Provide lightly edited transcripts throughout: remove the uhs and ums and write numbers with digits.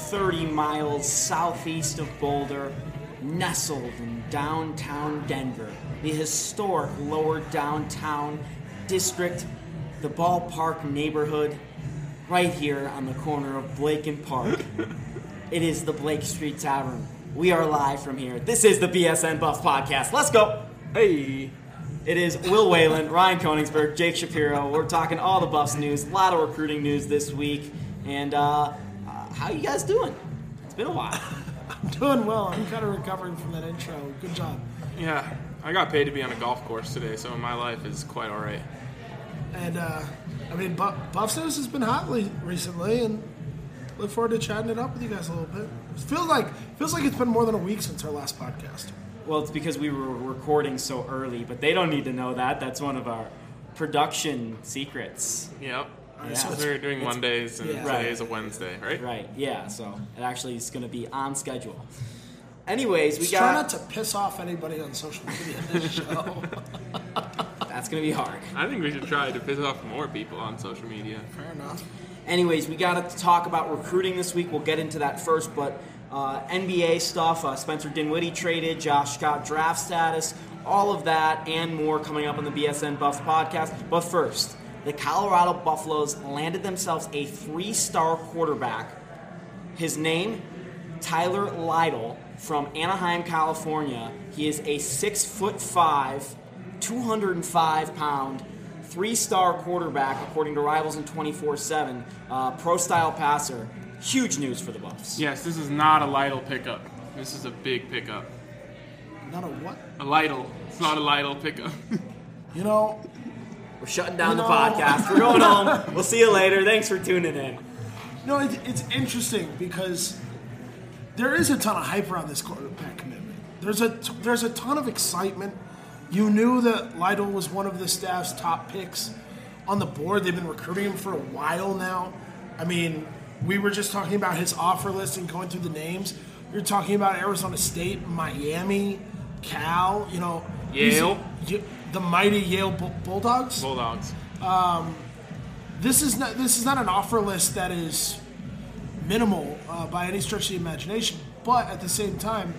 30 miles southeast of Boulder, nestled in downtown Denver, the historic lower downtown district, the ballpark neighborhood, right here on the corner of Blake and Park. It is the Blake Street Tavern. We are live from here. This is the BSN Buffs Podcast. Let's go! Hey! It is Will Whalen, Ryan Koenigsberg, Jake Shapiro. We're talking all the Buffs news, a lot of recruiting news this week. And how you guys doing? It's been a while. I'm doing well. I'm kind of recovering from that intro. Good job. Yeah, I got paid to be on a golf course today, so my life is quite all right. And, Buffs news has been hot recently, and look forward to chatting it up with you guys a little bit. It feels like it's been more than a week since our last podcast. Well, it's because we were recording so early, but they don't need to know that. That's one of our production secrets. Yep. Yeah. So we're doing Mondays, and today is a Wednesday, right? Right, yeah. So it actually is going to be on schedule. Anyways, try not to piss off anybody on social media in this show. That's going to be hard. I think we should try to piss off more people on social media. Fair enough. Anyways, we got to talk about recruiting this week. We'll get into that first, but NBA stuff, Spencer Dinwiddie traded, Josh Scott draft status, all of that and more coming up on the BSN Buffs podcast. But first, the Colorado Buffaloes landed themselves a 3-star quarterback. His name, Tyler Lytle, from Anaheim, California. He is a 6'5", 205-pound, 3-star quarterback, according to Rivals and 24/7, pro-style passer. Huge news for the Buffs. Yes, this is not a Lytle pickup. This is a big pickup. Not a what? A Lytle. It's not a Lytle pickup. You know, we're shutting down the podcast. We're going home. We'll see you later. Thanks for tuning in. No, it's interesting because there is a ton of hype around this quarterback commitment. There's a ton of excitement. You knew that Lytle was one of the staff's top picks on the board. They've been recruiting him for a while now. I mean, we were just talking about his offer list and going through the names. You're talking about Arizona State, Miami, Cal, Yale. The mighty Yale Bulldogs. Bulldogs. This is not an offer list that is minimal by any stretch of the imagination, but at the same time,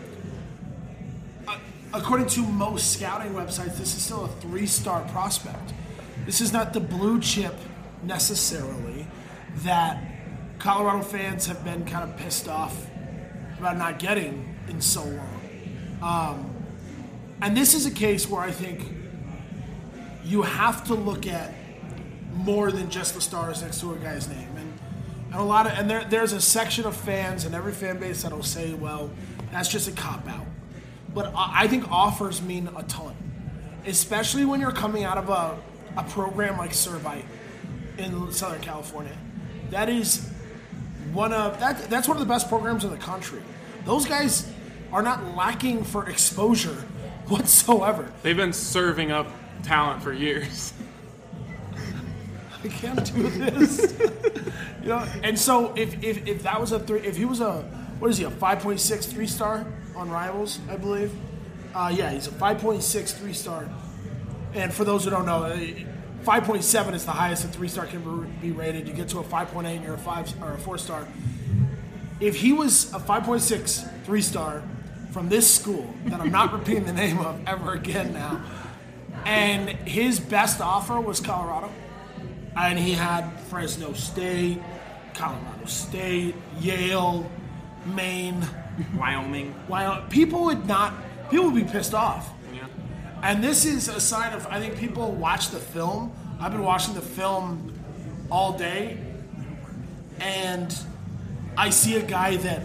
according to most scouting websites, this is still a 3-star prospect. This is not the blue chip necessarily that Colorado fans have been kind of pissed off about not getting in so long. And this is a case where I think you have to look at more than just the stars next to a guy's name. And there's a section of fans in every fan base that'll say, well, that's just a cop-out. But I think offers mean a ton, especially when you're coming out of a program like Servite in Southern California. That's one of the best programs in the country. Those guys are not lacking for exposure whatsoever. They've been serving up talent for years. I can't do this. And so if that was if he was a 5.6 3-star on Rivals, I believe. He's a 5.6 3-star. And for those who don't know, 5.7 is the highest a 3-star can be rated. You get to a 5.8 and you're a 5 or a 4-star. If he was a 5.6 3-star from this school that I'm not repeating the name of ever again now, and his best offer was Colorado, and he had Fresno State, Colorado State, Yale, Maine, Wyoming. People would be pissed off. Yeah. And this is a sign of, I think people watch the film. I've been watching the film all day, and I see a guy that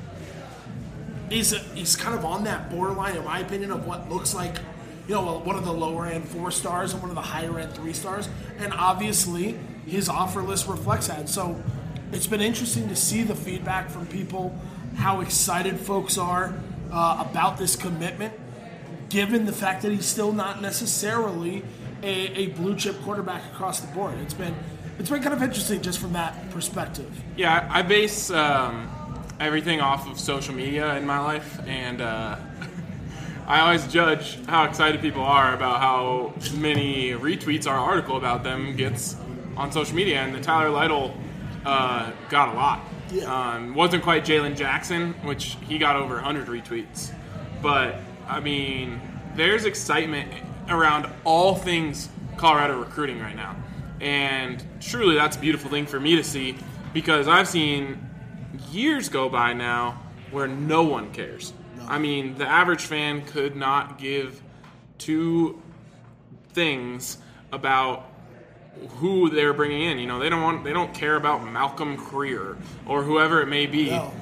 is kind of on that borderline, in my opinion, of what looks like, one of the lower end 4 stars and one of the higher end 3 stars. And obviously, his offer list reflects that. So it's been interesting to see the feedback from people, how excited folks are about this commitment, given the fact that he's still not necessarily a blue chip quarterback across the board. It's been kind of interesting just from that perspective. Yeah, I base everything off of social media in my life, and I always judge how excited people are about how many retweets our article about them gets on social media, and the Tyler Lytle got a lot. Yeah. Wasn't quite Jalen Jackson, which he got over 100 retweets. But, I mean, there's excitement around all things Colorado recruiting right now. And truly, that's a beautiful thing for me to see, because I've seen years go by now where no one cares. No. I mean, the average fan could not give two things about who they're bringing in. You know, they don't care about Malcolm Creer or whoever it may be. No.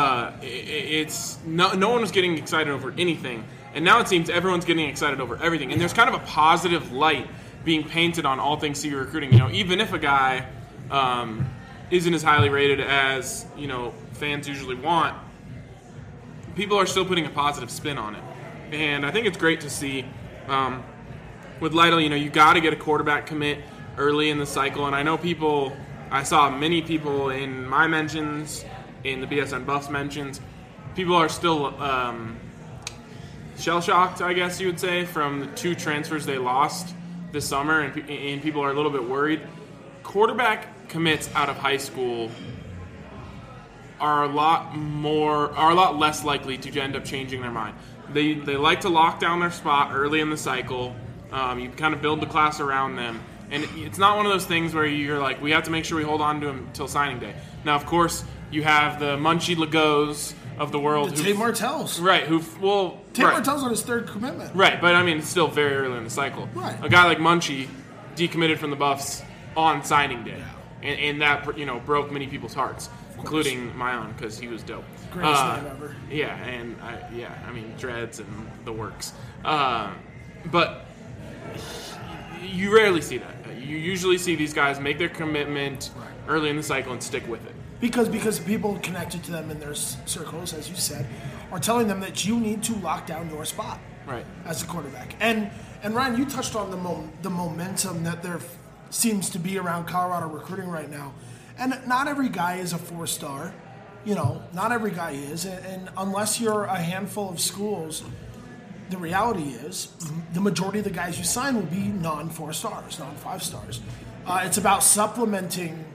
No one was getting excited over anything, and now it seems everyone's getting excited over everything. And there's kind of a positive light being painted on all things CU recruiting. You know, even if a guy isn't as highly rated as, you know, fans usually want, people are still putting a positive spin on it. And I think it's great to see. With Lytle, you know, you got to get a quarterback commit early in the cycle. And I saw many people in my mentions, in the BSN Buffs mentions, people are still shell-shocked, I guess you would say, from the 2 transfers they lost this summer, and people are a little bit worried. Quarterback commits out of high school are a lot less likely to end up changing their mind. They like to lock down their spot early in the cycle. You kind of build the class around them. And it's not one of those things where you're like, we have to make sure we hold on to him until signing day. Now, of course, you have the Munchie Legos of the world. Tate Martells. Right. Tate Martell's on his 3rd commitment. Right, but I mean, it's still very early in the cycle. Right. A guy like Munchie decommitted from the Buffs on signing day. Yeah. And that, you know, broke many people's hearts, including my own, because he was dope. Greatest name ever. Yeah, and I mean, dreads and the works. But you rarely see that. You usually see these guys make their commitment early in the cycle and stick with it. Because people connected to them in their circles, as you said, are telling them that you need to lock down your spot as a quarterback. And Ryan, you touched on the momentum that there seems to be around Colorado recruiting right now. And not every guy is a 4-star. You know, not every guy is. And unless you're a handful of schools, the reality is the majority of the guys you sign will be non-4 stars, non-5 stars. It's about supplementing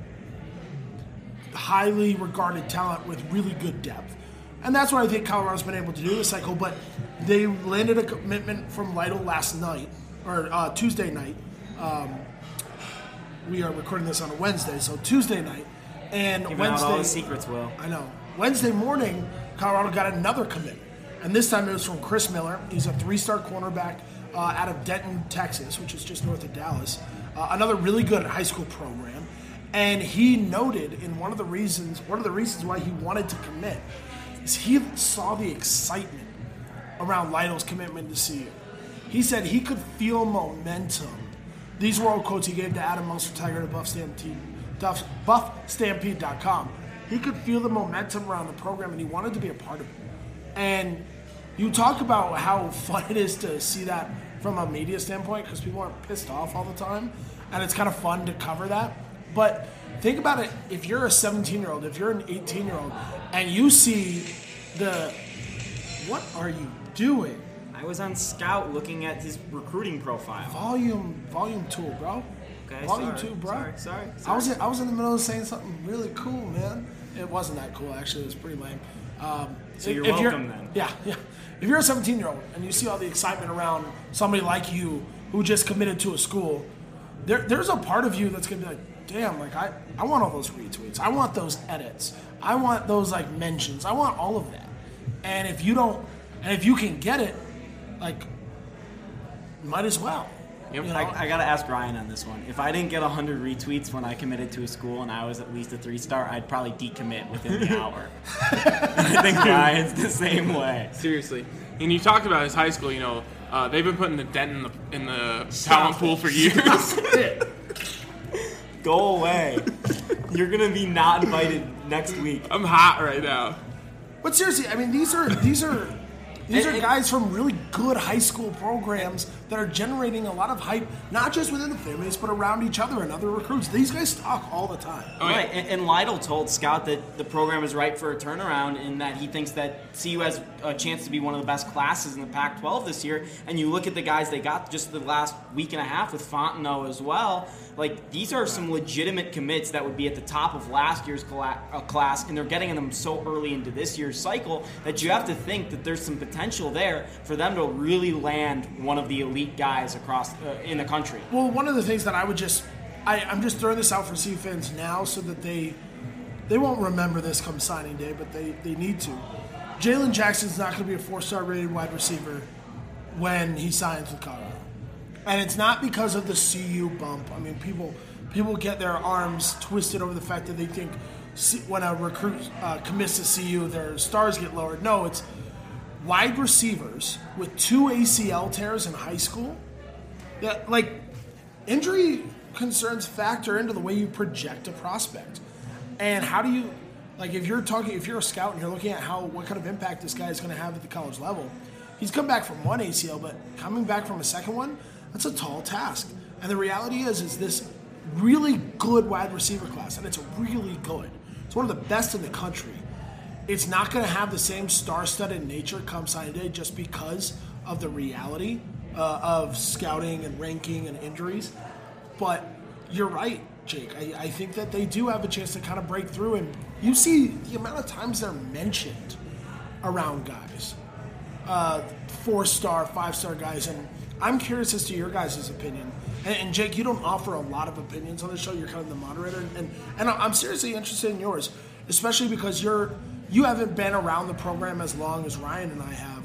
highly regarded talent with really good depth. And that's what I think Colorado's been able to do this cycle. But they landed a commitment from Lytle last night, or Tuesday night. We are recording this on a Wednesday, so Tuesday night. And Giving Wednesday, out all the secrets, Will. I know. Wednesday morning, Colorado got another commitment. And this time it was from Chris Miller. He's a 3-star cornerback out of Denton, Texas, which is just north of Dallas. Another really good high school program. And he noted in one of the reasons why he wanted to commit is he saw the excitement around Lytle's commitment to CU. He said he could feel momentum. These were all quotes he gave to Adam Munster Tiger at BuffStampede.com. He could feel the momentum around the program, and he wanted to be a part of it. And you talk about how fun it is to see that from a media standpoint, because people aren't pissed off all the time, and it's kind of fun to cover that. But think about it, if you're a 17-year-old, if you're an 18-year-old, and you see what are you doing? I was on Scout looking at his recruiting profile. Volume tool, bro. Okay, volume 2, bro. Sorry. I was in the middle of saying something really cool, man. It wasn't that cool, actually. It was pretty lame. So you're welcome then. Yeah. If you're a 17-year-old and you see all the excitement around somebody like you who just committed to a school, there's a part of you that's going to be like, damn, like I want all those retweets. I want those edits. I want those like mentions. I want all of that. And if you can get it, like, might as well. Yep. You know? I got to ask Ryan on this one. If I didn't get 100 retweets when I committed to a school and I was at least a 3-star, I'd probably decommit within the hour. I think Ryan's the same way. Seriously. And you talked about his high school, you know, they've been putting the dent in the talent pool for years. Go away. You're going to be not invited next week. I'm hot right now. But seriously, I mean, these are These are guys from really good high school programs that are generating a lot of hype, not just within the fan base, but around each other and other recruits. These guys talk all the time. Right, and Lytle told Scout that the program is ripe for a turnaround and that he thinks that CU has a chance to be one of the best classes in the Pac-12 this year. And you look at the guys they got just the last week and a half with Fontenot as well. Like, these are some legitimate commits that would be at the top of last year's class, and they're getting them so early into this year's cycle that you have to think that there's some potential there for them to really land one of the elite guys across in the country. Well, one of the things that I'm just throwing this out for CU fans now so that they won't remember this come signing day, but they need to. Jalen Jackson's not going to be a 4-star rated wide receiver when he signs with Colorado. And it's not because of the CU bump. I mean, people get their arms twisted over the fact that they think when a recruit commits to CU, their stars get lowered. No, it's wide receivers with 2 ACL tears in high school. Yeah, like, injury concerns factor into the way you project a prospect. And how do you, like, if you're a scout and you're looking at what kind of impact this guy is going to have at the college level, he's come back from 1 ACL, but coming back from a second one, that's a tall task. And the reality is this really good wide receiver class, and it's really good. It's one of the best in the country. It's not going to have the same star-studded nature come signing day just because of the reality of scouting and ranking and injuries. But you're right, Jake. I think that they do have a chance to kind of break through, and you see the amount of times they're mentioned around guys. 4-star, 5-star guys, and I'm curious as to your guys' opinion. And Jake, you don't offer a lot of opinions on the show. You're kind of the moderator, and I'm seriously interested in yours, especially because you haven't been around the program as long as Ryan and I have.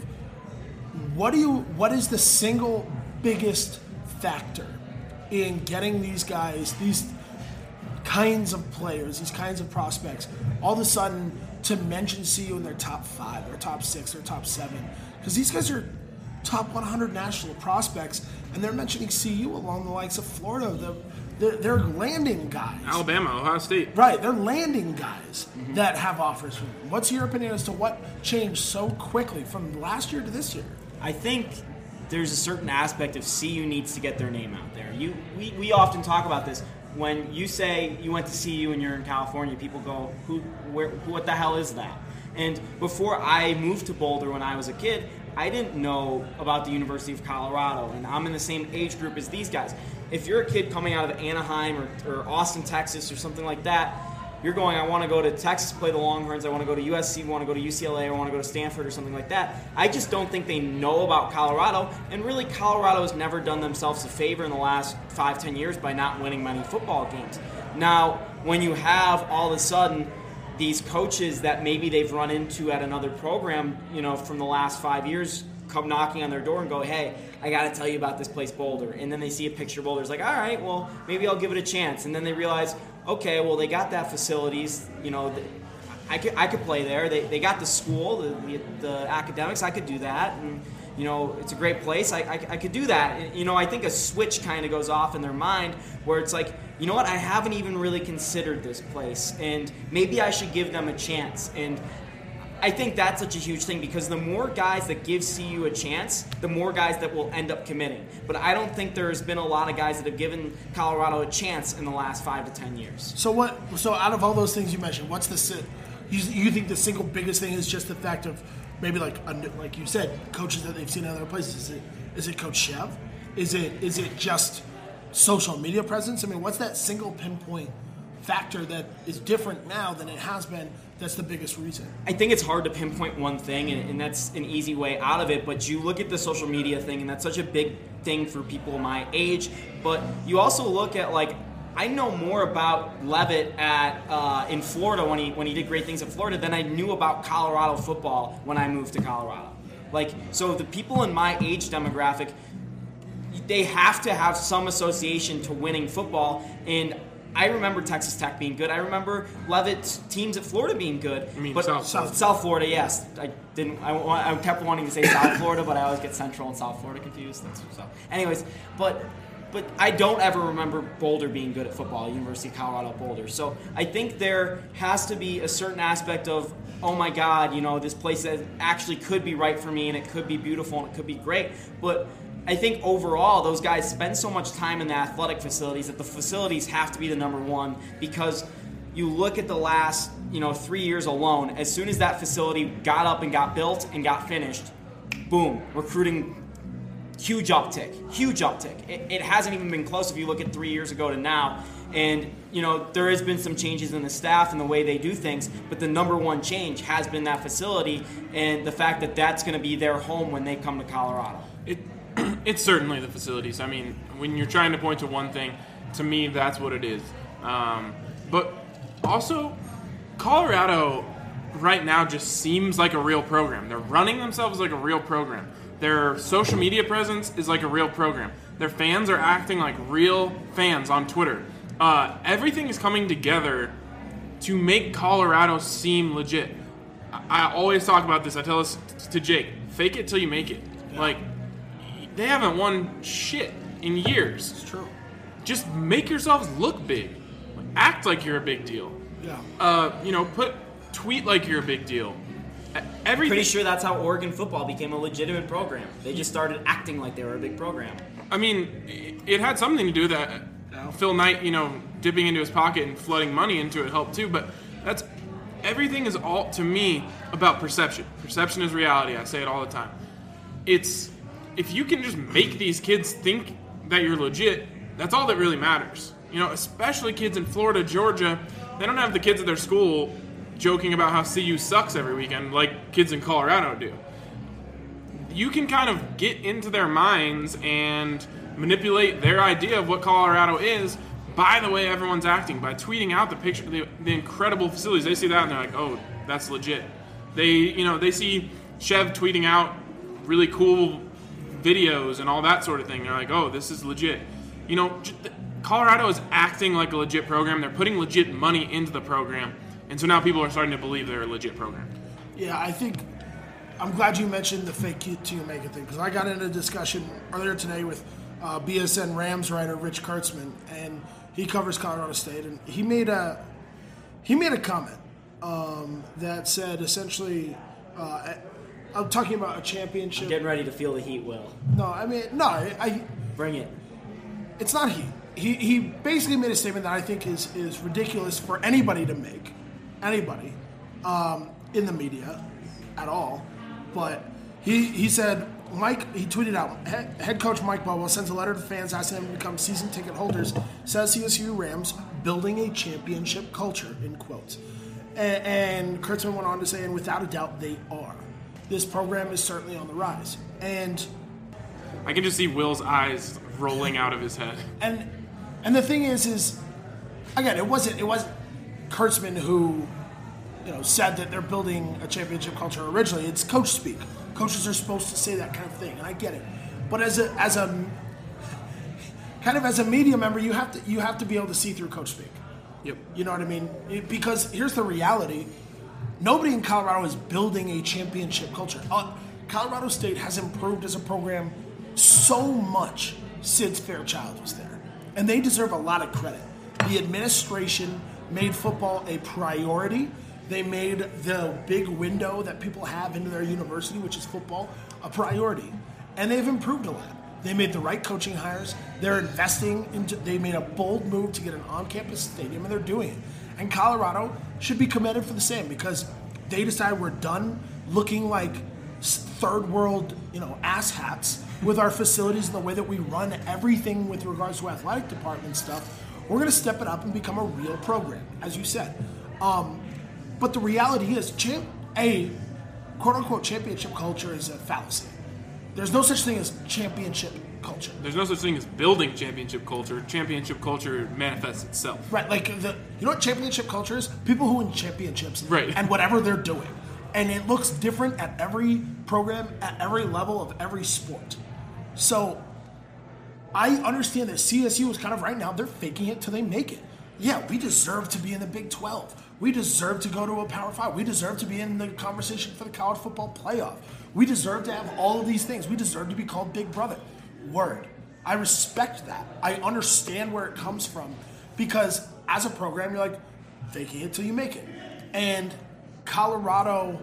What is the single biggest factor in getting these guys, these kinds of players, these kinds of prospects, all of a sudden to mention CU in their top 5 or top 6 or top 7? Because these guys are top 100 national prospects, and they're mentioning CU along the likes of Florida. They're landing guys. Alabama, Ohio State. Right, they're landing guys that have offers from them. What's your opinion as to what changed so quickly from last year to this year? I think there's a certain aspect of CU needs to get their name out there. We often talk about this. When you say you went to CU and you're in California, people go, what the hell is that? And before I moved to Boulder when I was a kid, I didn't know about the University of Colorado, and I'm in the same age group as these guys. If you're a kid coming out of Anaheim or Austin, Texas, or something like that, you're going, I want to go to Texas, play the Longhorns, I want to go to USC, I want to go to UCLA, I want to go to Stanford or something like that. I just don't think they know about Colorado, and really Colorado has never done themselves a favor in the last 5-10 years by not winning many football games. Now, when you have all of a sudden these coaches that maybe they've run into at another program, from the last 5 years, come knocking on their door and go, hey, I got to tell you about this place, Boulder. And then they see a picture of Boulder. It's like, all right, well, maybe I'll give it a chance. And then they realize, okay, well, they got that facilities. I could play there. They got the school, the academics. I could do that. And, it's a great place. I could do that. I think a switch kind of goes off in their mind where it's like, you know what, I haven't even really considered this place. And maybe I should give them a chance. And I think that's such a huge thing because the more guys that give CU a chance, the more guys that will end up committing. But I don't think there's been a lot of guys that have given Colorado a chance in the last 5 to 10 years. So out of all those things you mentioned, what's you think the single biggest thing is just the fact of maybe like you said, coaches that they've seen in other places? Is it Coach Chev? Is it just social media presence? I mean, what's that single pinpoint factor that is different now than it has been? That's the biggest reason. I think it's hard to pinpoint one thing, and that's an easy way out of it. But you look at the social media thing, and that's such a big thing for people my age. But you also look at, like, I know more about Levitt in Florida when he did great things at Florida than I knew about Colorado football when I moved to Colorado. Like, so the people in my age demographic, they have to have some association to winning football, and I remember Texas Tech being good. I remember Levitt's teams at Florida being good. I mean, but South Florida, yes. I kept wanting to say South Florida, but I always get Central and South Florida confused. Anyways, but but I don't ever remember Boulder being good at football, University of Colorado Boulder. So I think there has to be a certain aspect of, oh my God, this place that actually could be right for me and it could be beautiful and it could be great. But I think overall those guys spend so much time in the athletic facilities that the facilities have to be the number one, because you look at the last 3 years alone, as soon as that facility got up and got built and got finished, boom, recruiting, huge uptick. It hasn't even been close if you look at 3 years ago to now. And, there has been some changes in the staff and the way they do things, but the number one change has been that facility and the fact that that's going to be their home when they come to Colorado. It's certainly the facilities. I mean, when you're trying to point to one thing, to me, that's what it is. But also, Colorado right now just seems like a real program. They're running themselves like a real program. Their social media presence is like a real program. Their fans are acting like real fans on Twitter. Everything is coming together to make Colorado seem legit. I always talk about this. I tell this to Jake. Fake it till you make it. Yeah. Like, they haven't won shit in years. It's true. Just make yourselves look big. Act like you're a big deal. Yeah. Tweet like you're a big deal. Everything. Pretty sure that's how Oregon football became a legitimate program. They just started acting like they were a big program. I mean, it had something to do with that. Phil Knight, dipping into his pocket and flooding money into it helped too. But everything is all, to me, about perception. Perception is reality. I say it all the time. If you can just make these kids think that you're legit, that's all that really matters. Especially kids in Florida, Georgia, they don't have the kids at their school joking about how CU sucks every weekend like kids in Colorado do. You can kind of get into their minds and manipulate their idea of what Colorado is by the way everyone's acting, by tweeting out the picture, the incredible facilities. They see that and they're like, oh, that's legit. They see Chev tweeting out really cool videos and all that sort of thing. They're like, oh, this is legit. Colorado is acting like a legit program. They're putting legit money into the program. And so now people are starting to believe they're a legit program. Yeah, I'm glad you mentioned the fake it till you make it thing, because I got into a discussion earlier today with BSN Rams writer Rich Kurtzman, and he covers Colorado State, and he made a comment that said essentially, I'm talking about a championship. I'm getting ready to feel the heat, Will. I bring it. It's not heat. He basically made a statement that I think is ridiculous for anybody to make, in the media at all. But he said, he tweeted out, head coach Mike Bobo sends a letter to fans asking them to become season ticket holders, says CSU Rams building a championship culture, in quotes. And Kurtzman went on to say, and without a doubt, they are. This program is certainly on the rise. And I can just see Will's eyes rolling out of his head. And the thing is again, it wasn't Kurtzman who said that they're building a championship culture originally. It's coach speak. Coaches are supposed to say that kind of thing, and I get it. But as a media member, you have to be able to see through coach speak. Yep. You know what I mean? Because here's the reality: nobody in Colorado is building a championship culture. Colorado State has improved as a program so much since Fairchild was there, and they deserve a lot of credit. The administration made football a priority. They made the big window that people have into their university, which is football, a priority. And they've improved a lot. They made the right coaching hires. They're investing they made a bold move to get an on-campus stadium, and they're doing it. And Colorado should be commended for the same, because they decided we're done looking like third world, ass hats with our facilities and the way that we run everything with regards to athletic department stuff. We're going to step it up and become a real program, as you said. But the reality is, a quote-unquote championship culture is a fallacy. There's no such thing as championship culture. There's no such thing as building championship culture. Championship culture manifests itself. Right, like you know what championship culture is? People who win championships, right, and whatever they're doing. And it looks different at every program, at every level of every sport. So I understand that CSU is kind of right now, they're faking it till they make it. Yeah, we deserve to be in the Big 12. We deserve to go to a Power 5. We deserve to be in the conversation for the college football playoff. We deserve to have all of these things. We deserve to be called Big Brother. Word. I respect that. I understand where it comes from because as a program, you're like, faking it till you make it. And Colorado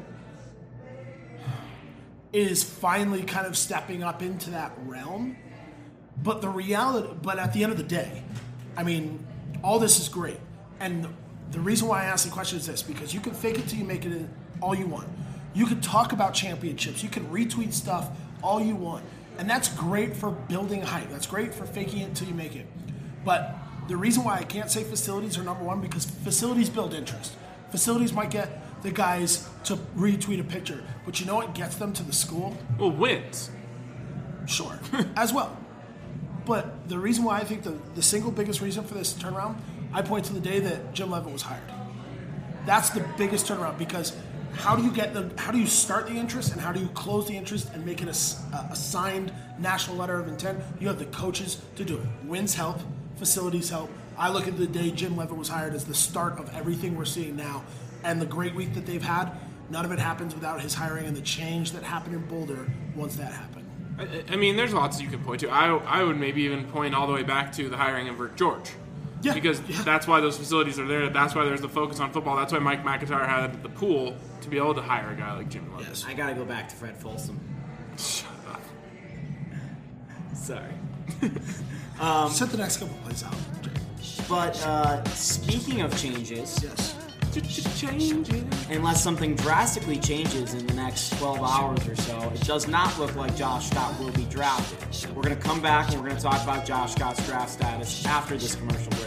is finally kind of stepping up into that realm. But at the end of the day, I mean, all this is great. And the reason why I ask the question is this, because you can fake it till you make it all you want. You can talk about championships. You can retweet stuff all you want. And that's great for building hype. That's great for faking it till you make it. But the reason why I can't say facilities are number one, because facilities build interest. Facilities might get the guys to retweet a picture, but you know what gets them to the school? Well, wins. Sure, as well. But the reason why I think the single biggest reason for this turnaround, I point to the day that Jim Leavitt was hired. That's the biggest turnaround, because how do you start the interest and how do you close the interest and make it a signed national letter of intent? You have the coaches to do it. Wins help, facilities help. I look at the day Jim Leavitt was hired as the start of everything we're seeing now, and the great week that they've had. None of it happens without his hiring and the change that happened in Boulder once that happened. I mean, there's lots you can point to. I would maybe even point all the way back to the hiring of Rick George. Yeah, because that's why those facilities are there. That's why there's the focus on football. That's why Mike McIntyre had the pool to be able to hire a guy like Jim Leavitt. Yes. I got to go back to Fred Folsom. Shut up. Sorry. Set the next couple plays out. But speaking of changes, Yes. unless something drastically changes in the next 12 hours or so, it does not look like Josh Scott will be drafted. We're going to come back and we're going to talk about Josh Scott's draft status after this commercial break.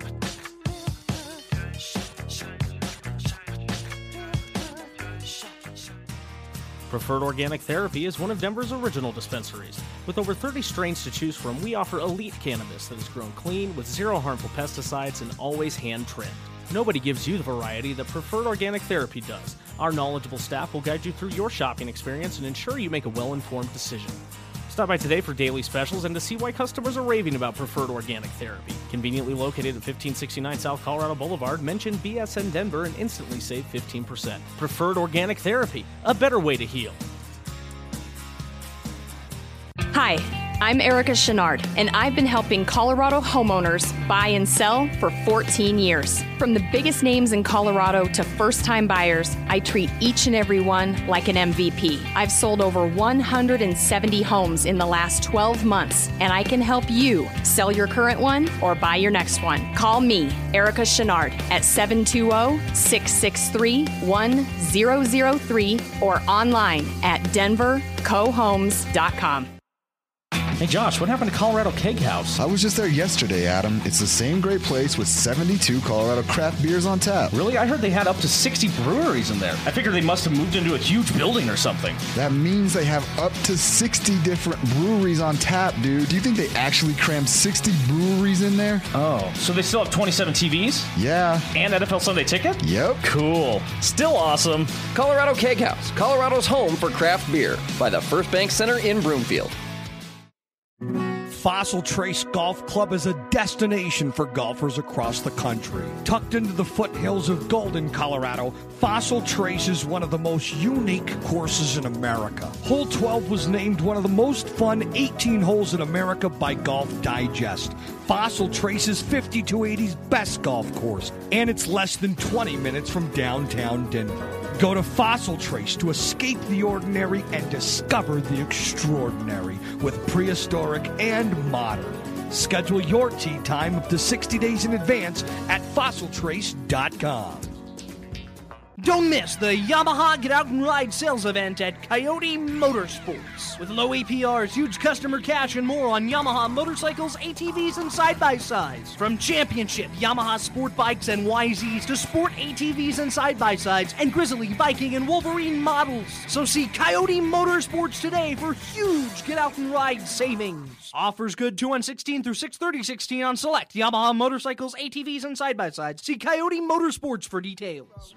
Preferred Organic Therapy is one of Denver's original dispensaries. With over 30 strains to choose from, we offer elite cannabis that is grown clean with zero harmful pesticides and always hand-trimmed. Nobody gives you the variety that Preferred Organic Therapy does. Our knowledgeable staff will guide you through your shopping experience and ensure you make a well-informed decision. Stop by today for daily specials and to see why customers are raving about Preferred Organic Therapy. Conveniently located at 1569 South Colorado Boulevard, mention BSN Denver and instantly save 15%. Preferred Organic Therapy, a better way to heal. Hi, I'm Erica Chenard, and I've been helping Colorado homeowners buy and sell for 14 years. From the biggest names in Colorado to first-time buyers, I treat each and every one like an MVP. I've sold over 170 homes in the last 12 months, and I can help you sell your current one or buy your next one. Call me, Erica Chenard, at 720-663-1003 or online at denvercohomes.com. Hey Josh, what happened to Colorado Keg House? I was just there yesterday, Adam. It's the same great place with 72 Colorado craft beers on tap. Really? I heard they had up to 60 breweries in there. I figured they must have moved into a huge building or something. That means they have up to 60 different breweries on tap, dude. Do you think they actually crammed 60 breweries in there? Oh, so they still have 27 TVs? Yeah. And NFL Sunday Ticket? Yep. Cool. Still awesome. Colorado Keg House, Colorado's home for craft beer, by the First Bank Center in Broomfield. Fossil Trace Golf Club is a destination for golfers across the country. Tucked into the foothills of Golden, Colorado, Fossil Trace is one of the most unique courses in America. Hole 12 was named one of the most fun 18 holes in America by Golf Digest. Fossil Trace is 5280's best golf course, and it's less than 20 minutes from downtown Denver. Go to Fossil Trace to escape the ordinary and discover the extraordinary with prehistoric and modern. Schedule your tee time up to 60 days in advance at fossiltrace.com. Don't miss the Yamaha Get Out and Ride sales event at Coyote Motorsports. With low APRs, huge customer cash, and more on Yamaha motorcycles, ATVs, and side-by-sides. From championship Yamaha sport bikes and YZs to sport ATVs and side-by-sides and Grizzly, Viking, and Wolverine models. So see Coyote Motorsports today for huge Get Out and Ride savings. Offers good 2/1/16 through 6/30/16 on select Yamaha motorcycles, ATVs, and side-by-sides. See Coyote Motorsports for details.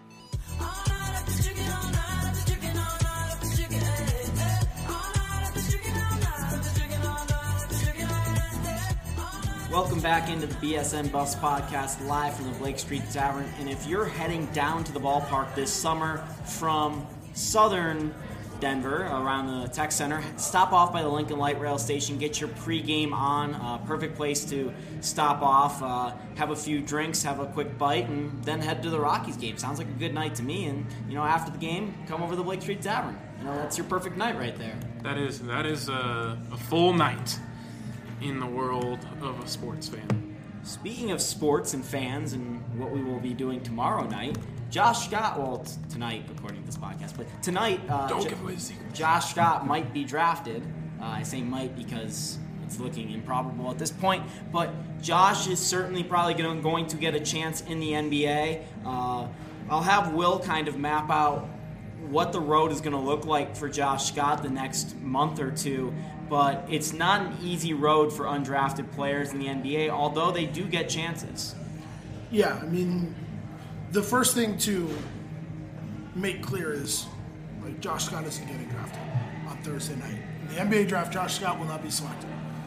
Welcome back into the BSN Buffs podcast live from the Blake Street Tavern. And if you're heading down to the ballpark this summer from southern Denver, around the Tech Center, stop off by the Lincoln Light Rail Station, get your pregame on. Perfect place to stop off, have a few drinks, have a quick bite, and then head to the Rockies game. Sounds like a good night to me. And, after the game, come over to the Blake Street Tavern. That's your perfect night right there. That is a full night in the world of a sports fan. Speaking of sports and fans and what we will be doing tomorrow night, Josh Scott, tonight according to this podcast, but tonight, Don't give away the secret. Josh Scott might be drafted. I say might because it's looking improbable at this point, but Josh is certainly probably going to get a chance in the NBA. I'll have Will kind of map out what the road is going to look like for Josh Scott the next month or two, but it's not an easy road for undrafted players in the NBA, although they do get chances. Yeah, I mean, the first thing to make clear is, Josh Scott isn't getting drafted on Thursday night. In the NBA draft, Josh Scott will not be selected.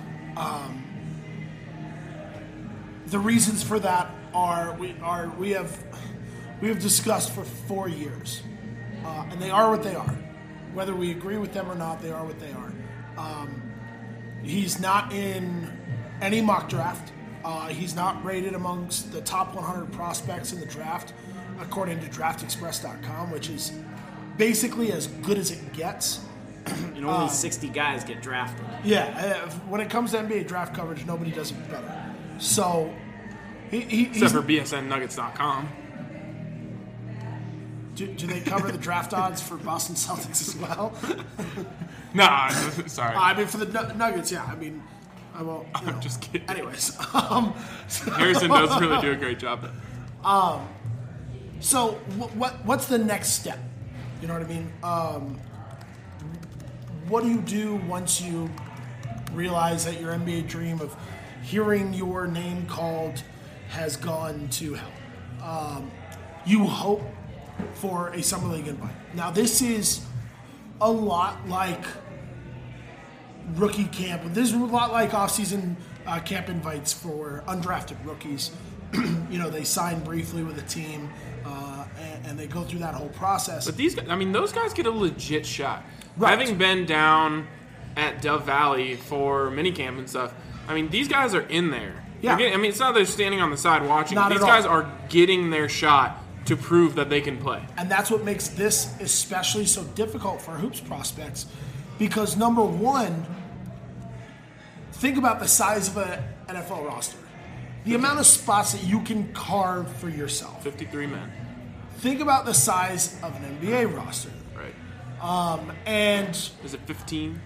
The reasons for that we have discussed for 4 years, and they are what they are. Whether we agree with them or not, they are what they are. He's not in any mock draft. He's not rated amongst the top 100 prospects in the draft, according to DraftExpress.com, which is basically as good as it gets. Only 60 guys get drafted. Yeah, when it comes to NBA draft coverage, nobody does it better. So, except for BSNNuggets.com. Do they cover the draft odds for Boston Celtics as well? Nah, sorry. I mean, for the Nuggets, yeah. I mean, I won't. I'm just kidding. Anyways, Harrison does really do a great job. So what's the next step? You know what I mean? What do you do once you realize that your NBA dream of hearing your name called has gone to hell? You hope for a Summer League invite. Now, this is a lot like rookie camp. This is a lot like offseason camp invites for undrafted rookies. They sign briefly with a team, and they go through that whole process. But these guys, those guys get a legit shot. Right. Having been down at Dove Valley for minicamp and stuff, these guys are in there. Yeah. It's not they're standing on the side watching. Not These at all. guys are getting their shot to prove that they can play. And that's what makes this especially so difficult for hoops prospects, because number one, think about the size of an NFL roster. The amount of spots that you can carve for yourself. 53 men. Think about the size of an NBA roster. Right. And is it 15?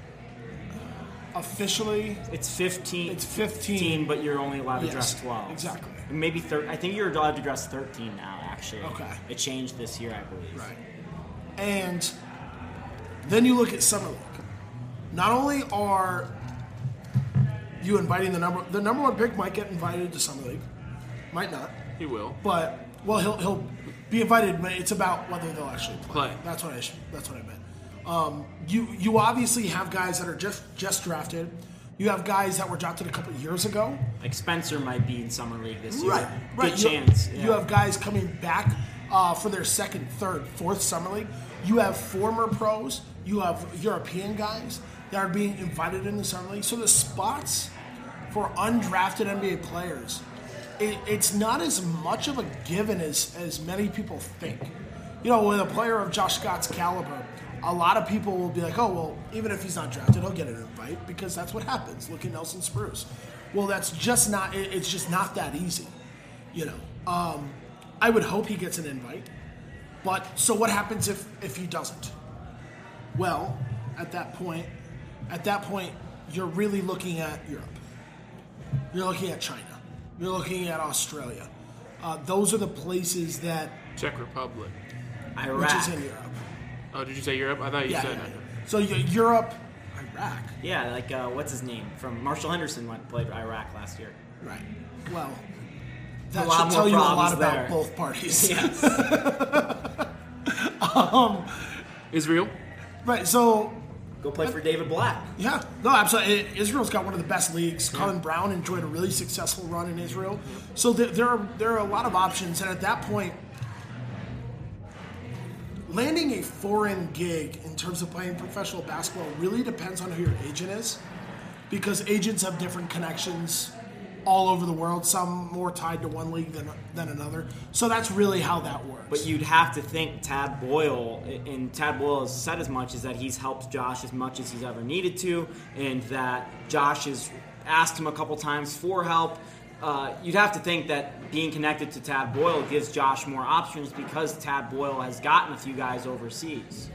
Officially, it's 15. It's 15, but you're only allowed to dress 12. Exactly. Maybe 13. I think you're allowed to dress 13 now, actually. Okay. It changed this year, I believe. Right. And then you look at Summer League. Not only are you inviting the number one pick might get invited to Summer League, might not. He will. But he'll be invited. But it's about whether they'll actually play. Play. That's what I meant. You obviously have guys that are just drafted. You have guys that were drafted a couple of years ago. Like Spencer might be in Summer League this year. Right. Good chance. You have guys coming back for their second, third, fourth Summer League. You have former pros. You have European guys that are being invited in the Summer League. So the spots for undrafted NBA players, it's not as much of a given as many people think. With a player of Josh Scott's caliber, a lot of people will be like, oh, well, even if he's not drafted, he'll get an invite because that's what happens. Look at Nelson Spruce. Well, that's just not, it's just not that easy. I would hope he gets an invite. But so what happens if he doesn't? Well, at that point, you're really looking at Europe. You're looking at China. You're looking at Australia. Those are the places that... Czech Republic. Iraq. Which is in Europe. Oh, did you say Europe? I thought you said that. So Europe, Iraq. Yeah, like what's his name from Marshall Henderson played Iraq last year. Right. Well, that should tell you a lot about there. both parties. Yes. Israel. Right. So go play for David Blatt. Yeah. No, absolutely. Israel's got one of the best leagues. Yeah. Colin Brown enjoyed a really successful run in Israel. Yeah. So there are a lot of options, and at that point, landing a foreign gig in terms of playing professional basketball really depends on who your agent is, because agents have different connections all over the world, some more tied to one league than another. So that's really how that works. But you'd have to think Tad Boyle, and Tad Boyle has said as much, is that he's helped Josh as much as he's ever needed to, and that Josh has asked him a couple times for help. You'd have to think that being connected to Tad Boyle gives Josh more options because Tad Boyle has gotten a few guys overseas.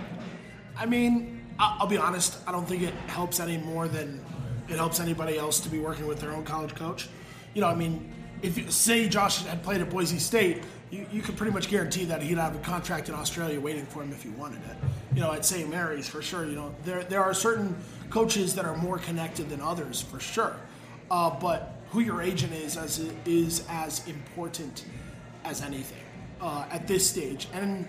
I mean, I'll be honest, I don't think it helps any more than it helps anybody else to be working with their own college coach. You know, I mean, if you say Josh had played at Boise State, you could pretty much guarantee that he'd have a contract in Australia waiting for him if he wanted it. You know, at St. Mary's, for sure. You know, there are certain coaches that are more connected than others, for sure. But who your agent is as important as anything at this stage. And,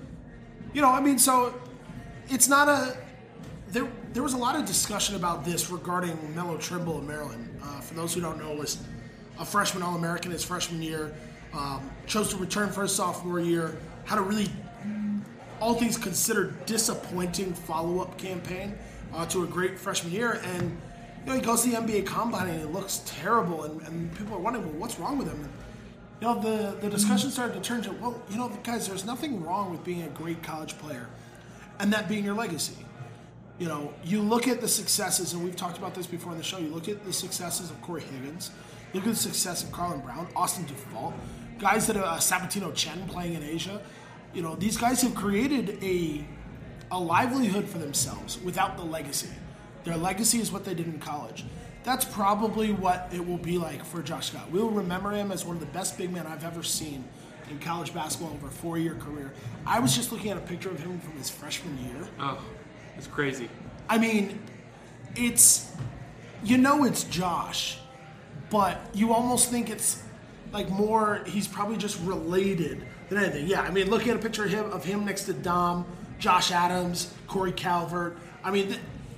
you know, I mean, so it's not a... There was a lot of discussion about this regarding Melo Trimble of Maryland. For those who don't know, was a freshman All-American his freshman year, chose to return for his sophomore year, had a really, all things considered, disappointing follow-up campaign to a great freshman year. And you know, he goes to the NBA Combine and it looks terrible, and people are wondering, well, what's wrong with him? And, you know, the discussion started to turn to, well, you know, guys, there's nothing wrong with being a great college player and that being your legacy. You know, you look at the successes, and we've talked about this before on the show, you look at the successes of Corey Higgins, look at the success of Carlin Brown, Austin Dufault, guys that are Sabatino Chen playing in Asia. You know, these guys have created a livelihood for themselves without the legacy. Their legacy is what they did in college. That's probably what it will be like for Josh Scott. We'll remember him as one of the best big men I've ever seen in college basketball over a 4-year career. I was just looking at a picture of him from his freshman year. Oh, it's crazy. I mean, it's, you know, it's Josh, but you almost think it's like more, he's probably just related than anything. Yeah, I mean, looking at a picture of him next to Dom, Josh Adams, Corey Calvert. I mean,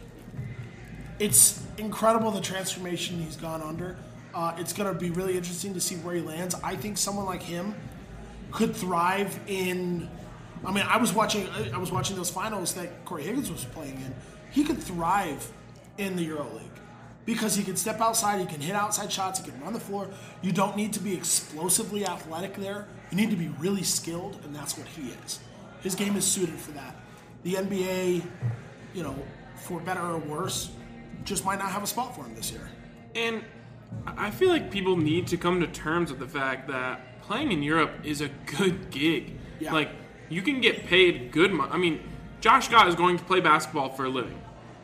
it's incredible the transformation he's gone under. It's going to be really interesting to see where he lands. I think someone like him could thrive in, I mean, I was watching those finals that Corey Higgins was playing in. He could thrive in the EuroLeague because he can step outside, he can hit outside shots, he can run the floor. You don't need to be explosively athletic there. You need to be really skilled, and that's what he is. His game is suited for that. The NBA, you know, for better or worse, just might not have a spot for him this year. And I feel like people need to come to terms with the fact that playing in Europe is a good gig. Yeah. Like, you can get paid good money. I mean, Josh Scott is going to play basketball for a living.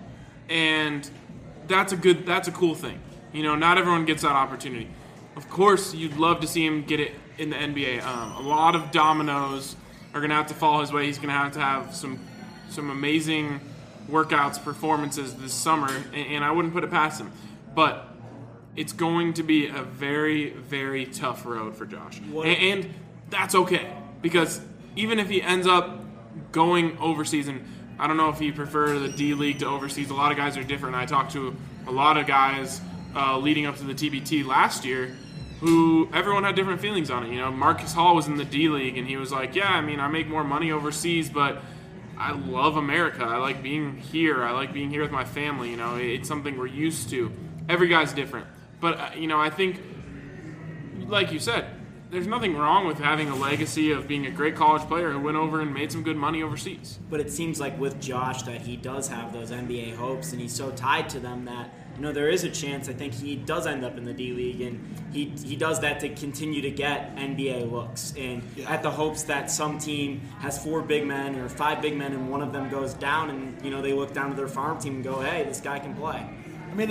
And that's a cool thing. You know, not everyone gets that opportunity. Of course, you'd love to see him get it in the NBA. A lot of dominoes are going to have to fall his way. He's going to have some amazing workouts, performances this summer, and I wouldn't put it past him. But it's going to be a very, very tough road for Josh. And that's okay, because even if he ends up going overseas, and I don't know if he prefer the D League to overseas. A lot of guys are different. I talked to a lot of guys leading up to the TBT last year who everyone had different feelings on it. You know, Marcus Hall was in the D League, and he was like, yeah, I mean, I make more money overseas, but I love America. I like being here. I like being here with my family. You know, it's something we're used to. Every guy's different. But, you know, I think, like you said, there's nothing wrong with having a legacy of being a great college player who went over and made some good money overseas. But it seems like with Josh that he does have those NBA hopes, and he's so tied to them that, you know, there is a chance I think he does end up in the D League, and he does that to continue to get NBA looks. And at the hopes that some team has 4 big men or 5 big men and one of them goes down, and, you know, they look down to their farm team and go, hey, this guy can play. I mean,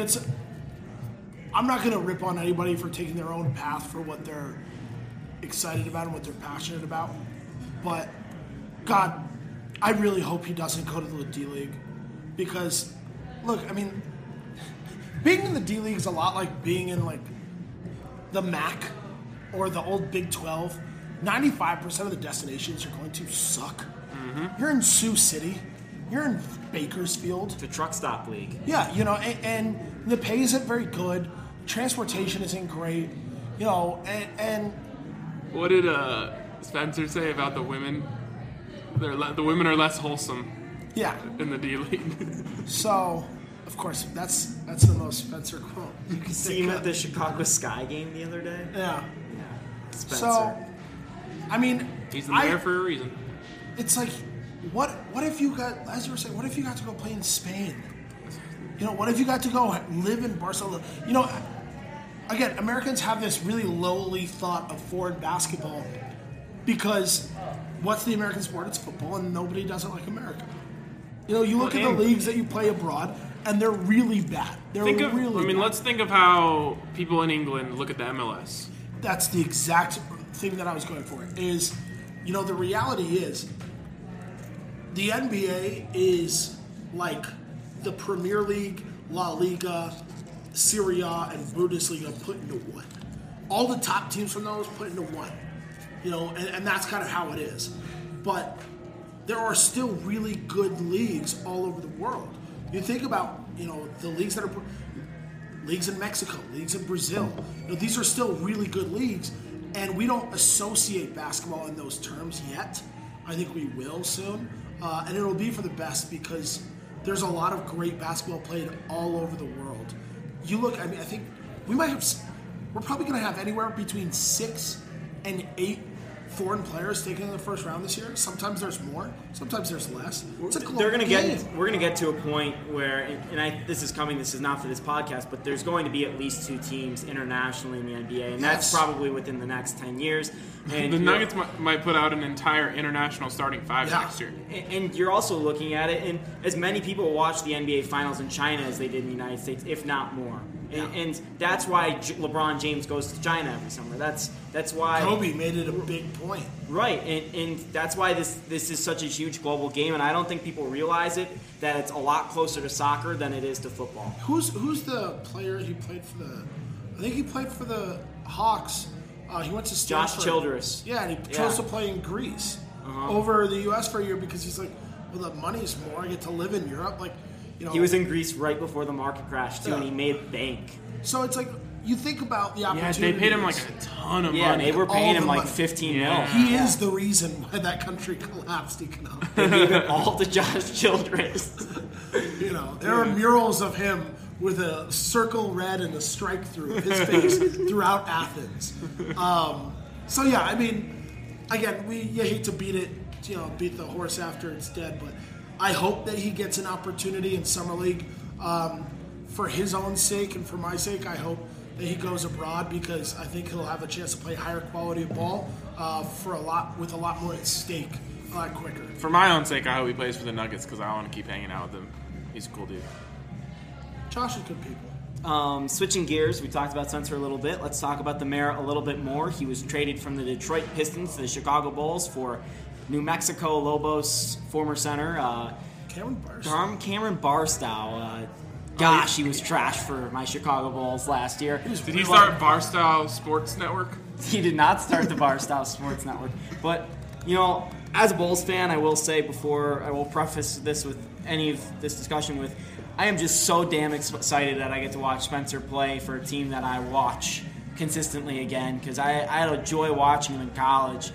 I'm not going to rip on anybody for taking their own path for what they're excited about and what they're passionate about. But, God, I really hope he doesn't go to the D League. Because, look, I mean, being in the D League is a lot like being in, like, the MAC or the old Big 12. 95% of the destinations you're going to suck. Mm-hmm. You're in Sioux City. You're in Bakersfield. It's a truck stop league. Yeah, you know, and the pay isn't very good. Transportation isn't great. You know, and what did Spencer say about the women? The women are less wholesome. Yeah. In the D League. So, of course, that's the most Spencer quote. You can see him at the Chicago Sky game the other day. Yeah. Spencer. So, I mean, he's the mayor for a reason. It's like, what if you got, as you were saying, what if you got to go play in Spain? What if you got to go live in Barcelona? Again, Americans have this really lowly thought of foreign basketball because what's the American sport? It's football, and nobody does it like America. You look at the leagues that you play abroad, and they're really bad. Let's think of how people in England look at the MLS. That's the exact thing that I was going for. Is, the reality is, the NBA is like the Premier League, La Liga, Serie A, and Bundesliga put into one. All the top teams from those put into one. And that's kind of how it is. But there are still really good leagues all over the world. You think about, the leagues that are leagues in Mexico, leagues in Brazil. These are still really good leagues, and we don't associate basketball in those terms yet. I think we will soon, and it'll be for the best because there's a lot of great basketball played all over the world. You look, I think we're probably going to have anywhere between 6 and 8 foreign players taken in the first round this year. Sometimes there's more, sometimes there's less. It's a global game. We're going to get to a point where, this is coming, this is not for this podcast, but there's going to be at least 2 teams internationally in the NBA, and that's probably within the next 10 years. And the Nuggets might put out an entire international starting 5 next year. And you're also looking at it, and as many people watch the NBA Finals in China as they did in the United States, if not more. And that's why LeBron James goes to China every summer. That's why Kobe made it a big point. Right, and that's why this is such a huge global game, and I don't think people realize it, that it's a lot closer to soccer than it is to football. Who's the player he played for I think he played for the Hawks. He went to Stanford. Josh Childress. Yeah, and he chose to play in Greece over the U.S. for a year because he's like, well, the money's more. I get to live in Europe. He was in Greece right before the market crash, too, and he made bank. So it's like, you think about the opportunity. Yeah, they paid him like a ton of money. Yeah, they were paying him like $15 million. He is the reason why that country collapsed economically. They gave it all to Josh Childress. There are murals of him with a circle red and a strike through his face throughout Athens. So yeah, I mean, again, you hate to beat the horse after it's dead, but I hope that he gets an opportunity in Summer League. For his own sake and for my sake, I hope that he goes abroad because I think he'll have a chance to play higher quality of ball with a lot more at stake, a lot quicker. For my own sake, I hope he plays for the Nuggets because I want to keep hanging out with him. He's a cool dude. Josh is good people. Switching gears, we talked about Spencer a little bit. Let's talk about the mayor a little bit more. He was traded from the Detroit Pistons to the Chicago Bulls for New Mexico Lobos former center Cameron Barstow. Gosh, he was trash for my Chicago Bulls last year. Did he start Barstow Sports Network? He did not start the Barstow Sports Network. But, as a Bulls fan, I will say before I will preface this with any of this discussion with, I am just so damn excited that I get to watch Spencer play for a team that I watch consistently again because I had a joy watching him in college.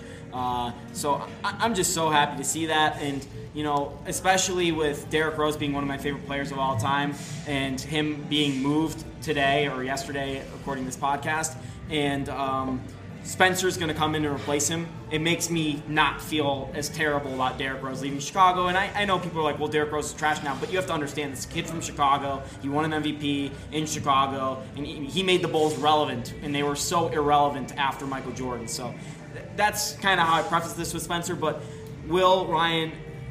So I'm just so happy to see that, and especially with Derrick Rose being one of my favorite players of all time, and him being moved today or yesterday, according to this podcast, and Spencer's going to come in and replace him. It makes me not feel as terrible about Derrick Rose leaving Chicago. And I know people are like, well, Derrick Rose is trash now, but you have to understand this kid from Chicago. He won an MVP in Chicago, and he made the Bulls relevant, and they were so irrelevant after Michael Jordan. So that's kind of how I preface this with Spencer. But Ryan,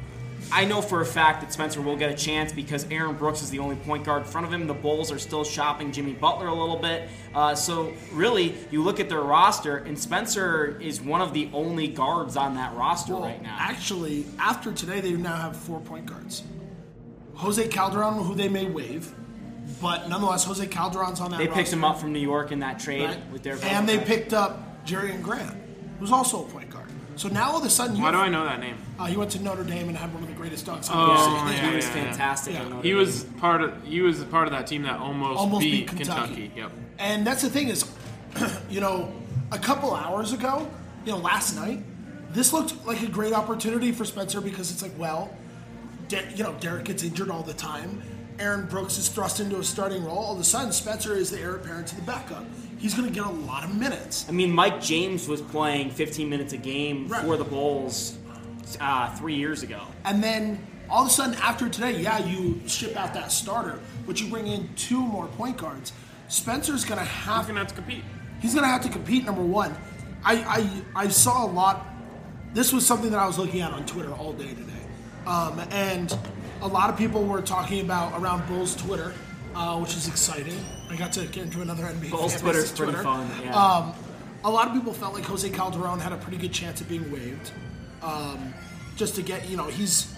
I know for a fact that Spencer will get a chance because Aaron Brooks is the only point guard in front of him. The Bulls are still shopping Jimmy Butler a little bit. So really, you look at their roster, and Spencer is one of the only guards on that roster right now. Actually, after today, they now have 4 point guards. Jose Calderon, who they may waive, but nonetheless, Jose Calderon's on that roster. They picked him up from New York in that trade with their and they picked up Jerian Grant, who's also a point guard. So now all of a sudden, why do I know that name? He went to Notre Dame and had one of the greatest dunks. He was fantastic. Yeah. He was part of that team that almost beat Kentucky. Yep. And that's the thing is, a couple hours ago, last night, this looked like a great opportunity for Spencer because it's like, well, Derek gets injured all the time. Aaron Brooks is thrust into a starting role. All of a sudden, Spencer is the heir apparent to the backup. He's going to get a lot of minutes. I mean, Mike James was playing 15 minutes a game for the Bulls 3 years ago. And then all of a sudden, after today, you ship out that starter, but you bring in 2 more point guards. Spencer's going to have to compete. He's going to have to compete, number one. I saw a lot. This was something that I was looking at on Twitter all day today. And a lot of people were talking about around Bulls Twitter, which is exciting. I got to get into another NBA Bulls Twitter is pretty fun. Yeah. A lot of people felt like Jose Calderon had a pretty good chance of being waived. Just to get, he's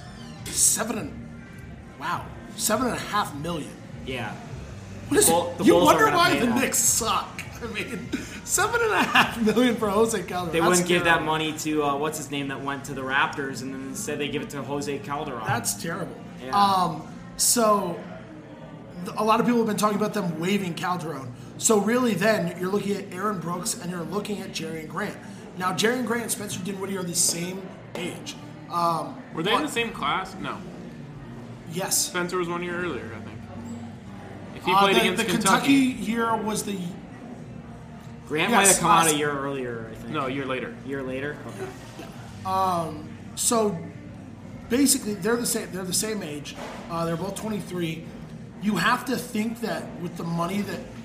$7.5 million. Yeah. You wonder why the Knicks suck. I mean, $7.5 million for Jose Calderon. They wouldn't give that money to what's his name that went to the Raptors, and then instead they give it to Jose Calderon. That's terrible. Yeah. So a lot of people have been talking about them waiving Calderon. So really, then you're looking at Aaron Brooks and you're looking at Jerian Grant. Now, Jerian Grant and Spencer Dinwiddie are the same age. Were they in the same class? No. Yes. Spencer was 1 year earlier, I think. If he played against the Kentucky year was the. Grant might have come out a year earlier, I think. No, a year later. Year later? Okay. Yeah. So basically, they're the same. They're the same age. They're both 23. You have to think that with the money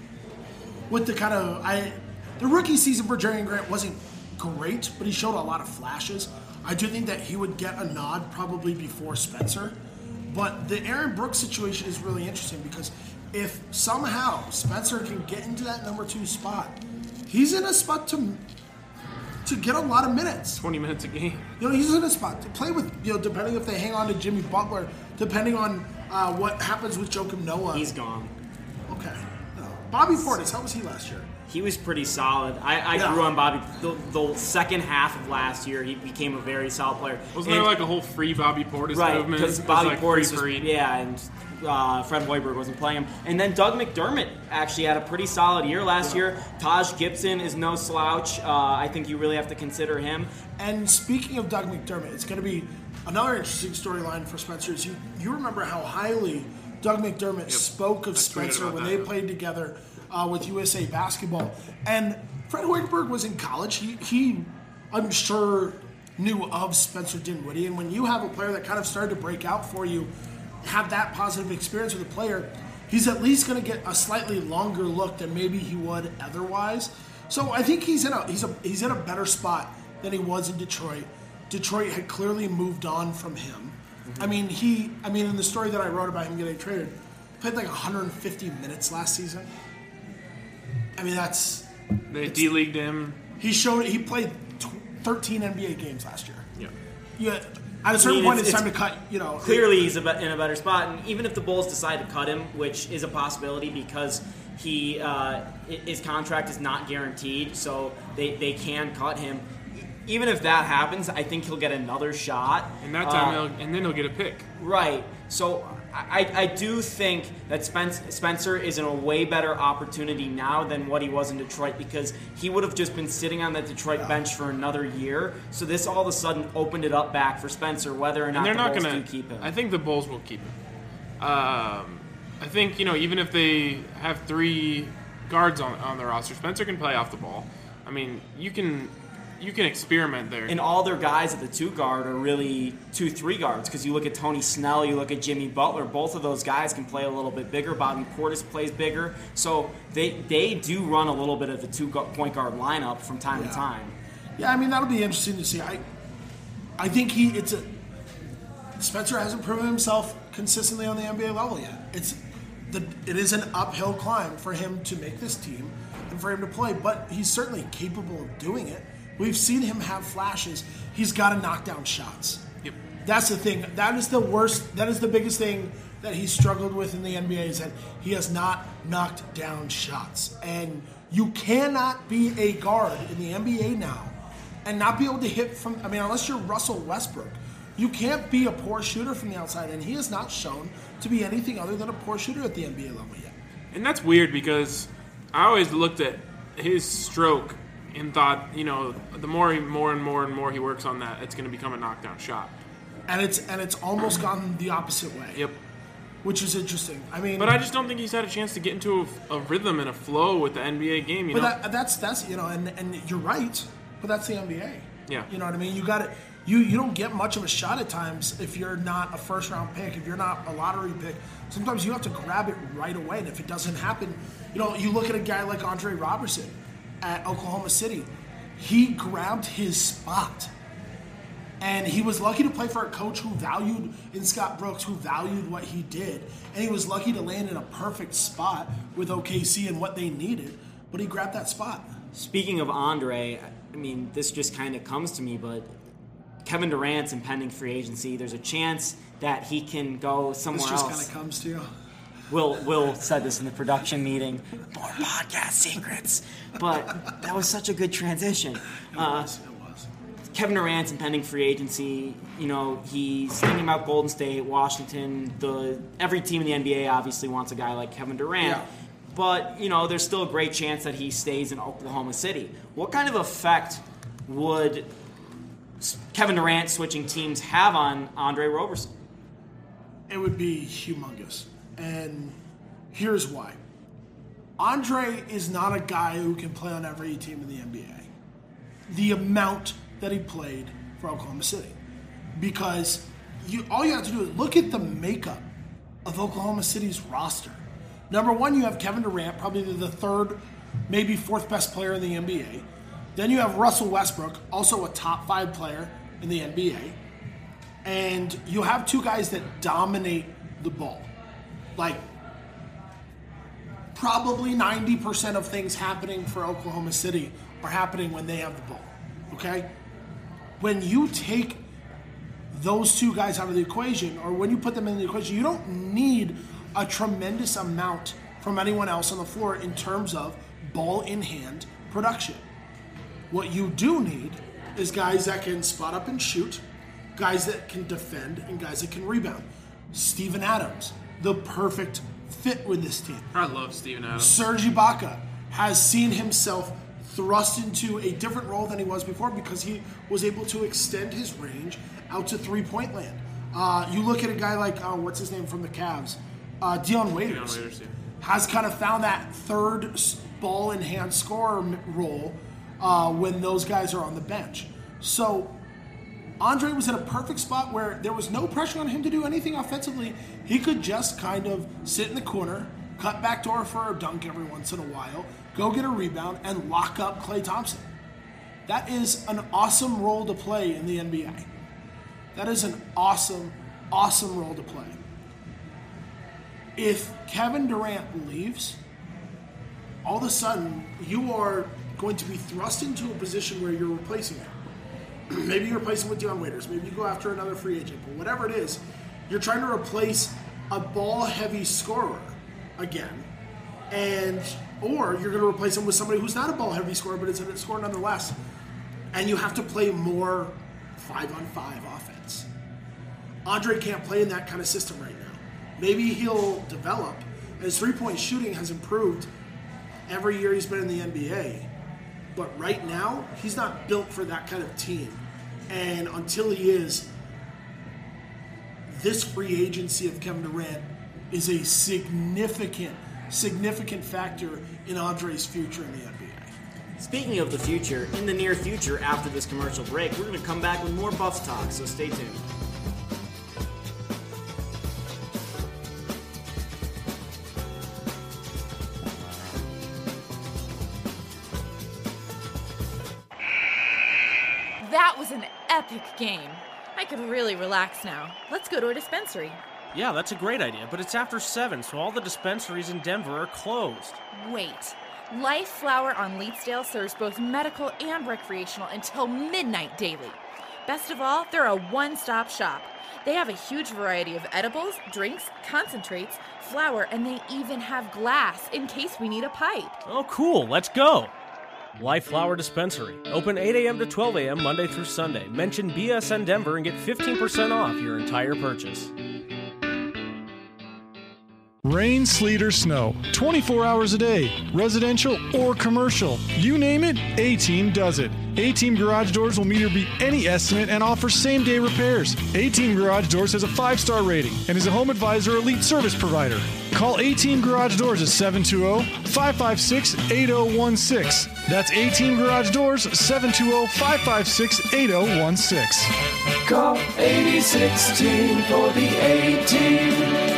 the rookie season for Jerian Grant wasn't great, but he showed a lot of flashes. I do think that he would get a nod probably before Spencer. But the Aaron Brooks situation is really interesting because if somehow Spencer can get into that number 2 spot, he's in a spot to get a lot of minutes. 20 minutes a game. He's in a spot to play with, depending if they hang on to Jimmy Butler, depending on what happens with Joakim Noah. He's gone. Okay. Bobby Portis, how was he last year? He was pretty solid. I grew on Bobby. The second half of last year, he became a very solid player. Wasn't there like a whole free Bobby Portis movement? Right, because Bobby Portis was, and Fred Hoiberg wasn't playing him. And then Doug McDermott actually had a pretty solid year last year. Taj Gibson is no slouch. I think you really have to consider him. And speaking of Doug McDermott, it's going to be another interesting storyline for Spencer. You remember how highly Doug McDermott spoke of Spencer when they played together with USA Basketball. And Fred Hoiberg was in college. He, I'm sure, knew of Spencer Dinwiddie. And when you have a player that kind of started to break out for you, have that positive experience with a player, he's at least going to get a slightly longer look than maybe he would otherwise. So I think he's in a better spot than he was in Detroit. Detroit had clearly moved on from him. Mm-hmm. I mean, in the story that I wrote about him getting traded, he played like 150 minutes last season. I mean, they D-leagued him. He played 13 NBA games last year. Yeah. At a certain point, it's time to cut. Clearly, he's in a better spot, and even if the Bulls decide to cut him, which is a possibility because his contract is not guaranteed, so they can cut him. Even if that happens, I think he'll get another shot. And that time, and then he'll get a pick. Right. So I do think that Spencer is in a way better opportunity now than what he was in Detroit because he would have just been sitting on the Detroit bench for another year. So this all of a sudden opened it up back for Spencer, whether or not the Bulls do keep him. I think the Bulls will keep him. I think, even if they have 3 guards on their roster, Spencer can play off the ball. I mean, you can experiment there. And all their guys at the 2 guard are really 2-3 guards because you look at Tony Snell, you look at Jimmy Butler, both of those guys can play a little bit bigger. Bobby Portis plays bigger. So they do run a little bit of the 2-point guard lineup from time to time. Yeah, I mean, that'll be interesting to see. I think Spencer hasn't proven himself consistently on the NBA level yet. It is an uphill climb for him to make this team and for him to play, but he's certainly capable of doing it. We've seen him have flashes. He's got to knock down shots. Yep. That's the thing. That is the worst. That is the biggest thing that he's struggled with in the NBA is that he has not knocked down shots. And you cannot be a guard in the NBA now and not be able to hit from, unless you're Russell Westbrook, you can't be a poor shooter from the outside. And he has not shown to be anything other than a poor shooter at the NBA level yet. And that's weird because I always looked at his stroke and thought, the more and more he works on that, it's going to become a knockdown shot. And it's almost gone the opposite way. Yep. Which is interesting. I mean, but I just don't think he's had a chance to get into a rhythm and a flow with the NBA game. You know, that's and you're right. But that's the NBA. Yeah. You know what I mean? You got it. You don't get much of a shot at times if you're not a first round pick, if you're not a lottery pick. Sometimes you have to grab it right away, and if it doesn't happen, you look at a guy like Andre Robertson at Oklahoma City. He grabbed his spot. And he was lucky to play for a coach who valued, in Scott Brooks, who valued what he did. And he was lucky to land in a perfect spot with OKC and what they needed. But he grabbed that spot. Speaking of Andre, I mean, this just kind of comes to me, but Kevin Durant's impending free agency. There's a chance that he can go somewhere else. This just kind of comes to you. Will said this in the production meeting. More podcast secrets. But that was such a good transition. It was. Kevin Durant's impending free agency, he's thinking about Golden State, Washington. Every team in the NBA obviously wants a guy like Kevin Durant. Yeah. But, there's still a great chance that he stays in Oklahoma City. What kind of effect would Kevin Durant switching teams have on Andre Roberson? It would be humongous. And here's why. Andre is not a guy who can play on every team in the NBA. The amount that he played for Oklahoma City. Because all you have to do is look at the makeup of Oklahoma City's roster. Number one, you have Kevin Durant, probably the third, maybe fourth best player in the NBA. Then you have Russell Westbrook, also a top 5 player in the NBA. And you have two guys that dominate the ball. Like, probably 90% of things happening for Oklahoma City are happening when they have the ball. Okay? When you take those two guys out of the equation, or when you put them in the equation, you don't need a tremendous amount from anyone else on the floor in terms of ball in hand production. What you do need is guys that can spot up and shoot, guys that can defend, and guys that can rebound. Steven Adams, the perfect fit with this team. I love Steven Adams. Serge Ibaka has seen himself thrust into a different role than he was before because he was able to extend his range out to three-point land. You look at a guy like, what's his name from the Cavs? Dion Waiters. Has kind of found that third ball-in-hand scorer role when those guys are on the bench. So Andre was in a perfect spot where there was no pressure on him to do anything offensively. He could just kind of sit in the corner, cut backdoor for a dunk every once in a while, go get a rebound, and lock up Klay Thompson. That is an awesome role to play in the NBA. That is an awesome, awesome role to play. If Kevin Durant leaves, all of a sudden you are going to be thrust into a position where you're replacing him. Maybe you're replacing with Dion Waiters. Maybe you go after another free agent. But whatever it is, you're trying to replace a ball-heavy scorer again. Or you're going to replace him with somebody who's not a ball-heavy scorer, but is a scorer nonetheless. And you have to play more 5-on-5 offense. Andre can't play in that kind of system right now. Maybe he'll develop. His three-point shooting has improved every year he's been in the NBA. But right now, he's not built for that kind of team. And until he is, this free agency of Kevin Durant is a significant factor in Andre's future in the NBA. Speaking of the future, in the near future, after this commercial break, we're going to come back with more Buffs talk, so stay tuned. That was an epic game. I could really relax now. Let's go to a dispensary. Yeah, that's a great idea, but it's after 7, so all the dispensaries in Denver are closed. Wait. Life Flower on Leetsdale serves both medical and recreational until midnight daily. Best of all, they're a one-stop shop. They have a huge variety of edibles, drinks, concentrates, flower, and they even have glass in case we need a pipe. Oh, cool. Let's go. Life Flower Dispensary. Open 8 a.m. to 12 a.m. Monday through Sunday. Mention BSN Denver and get 15% off your entire purchase. Rain, sleet, or snow, 24 hours a day, residential or commercial. You name it, A-Team does it. A-Team Garage Doors will meet or beat any estimate and offers same-day repairs. A-Team Garage Doors has a 5-star rating and is a Home Advisor Elite service provider. Call A-Team Garage Doors at 720-556-8016. That's A-Team Garage Doors, 720-556-8016. Call 8016 for the A-Team.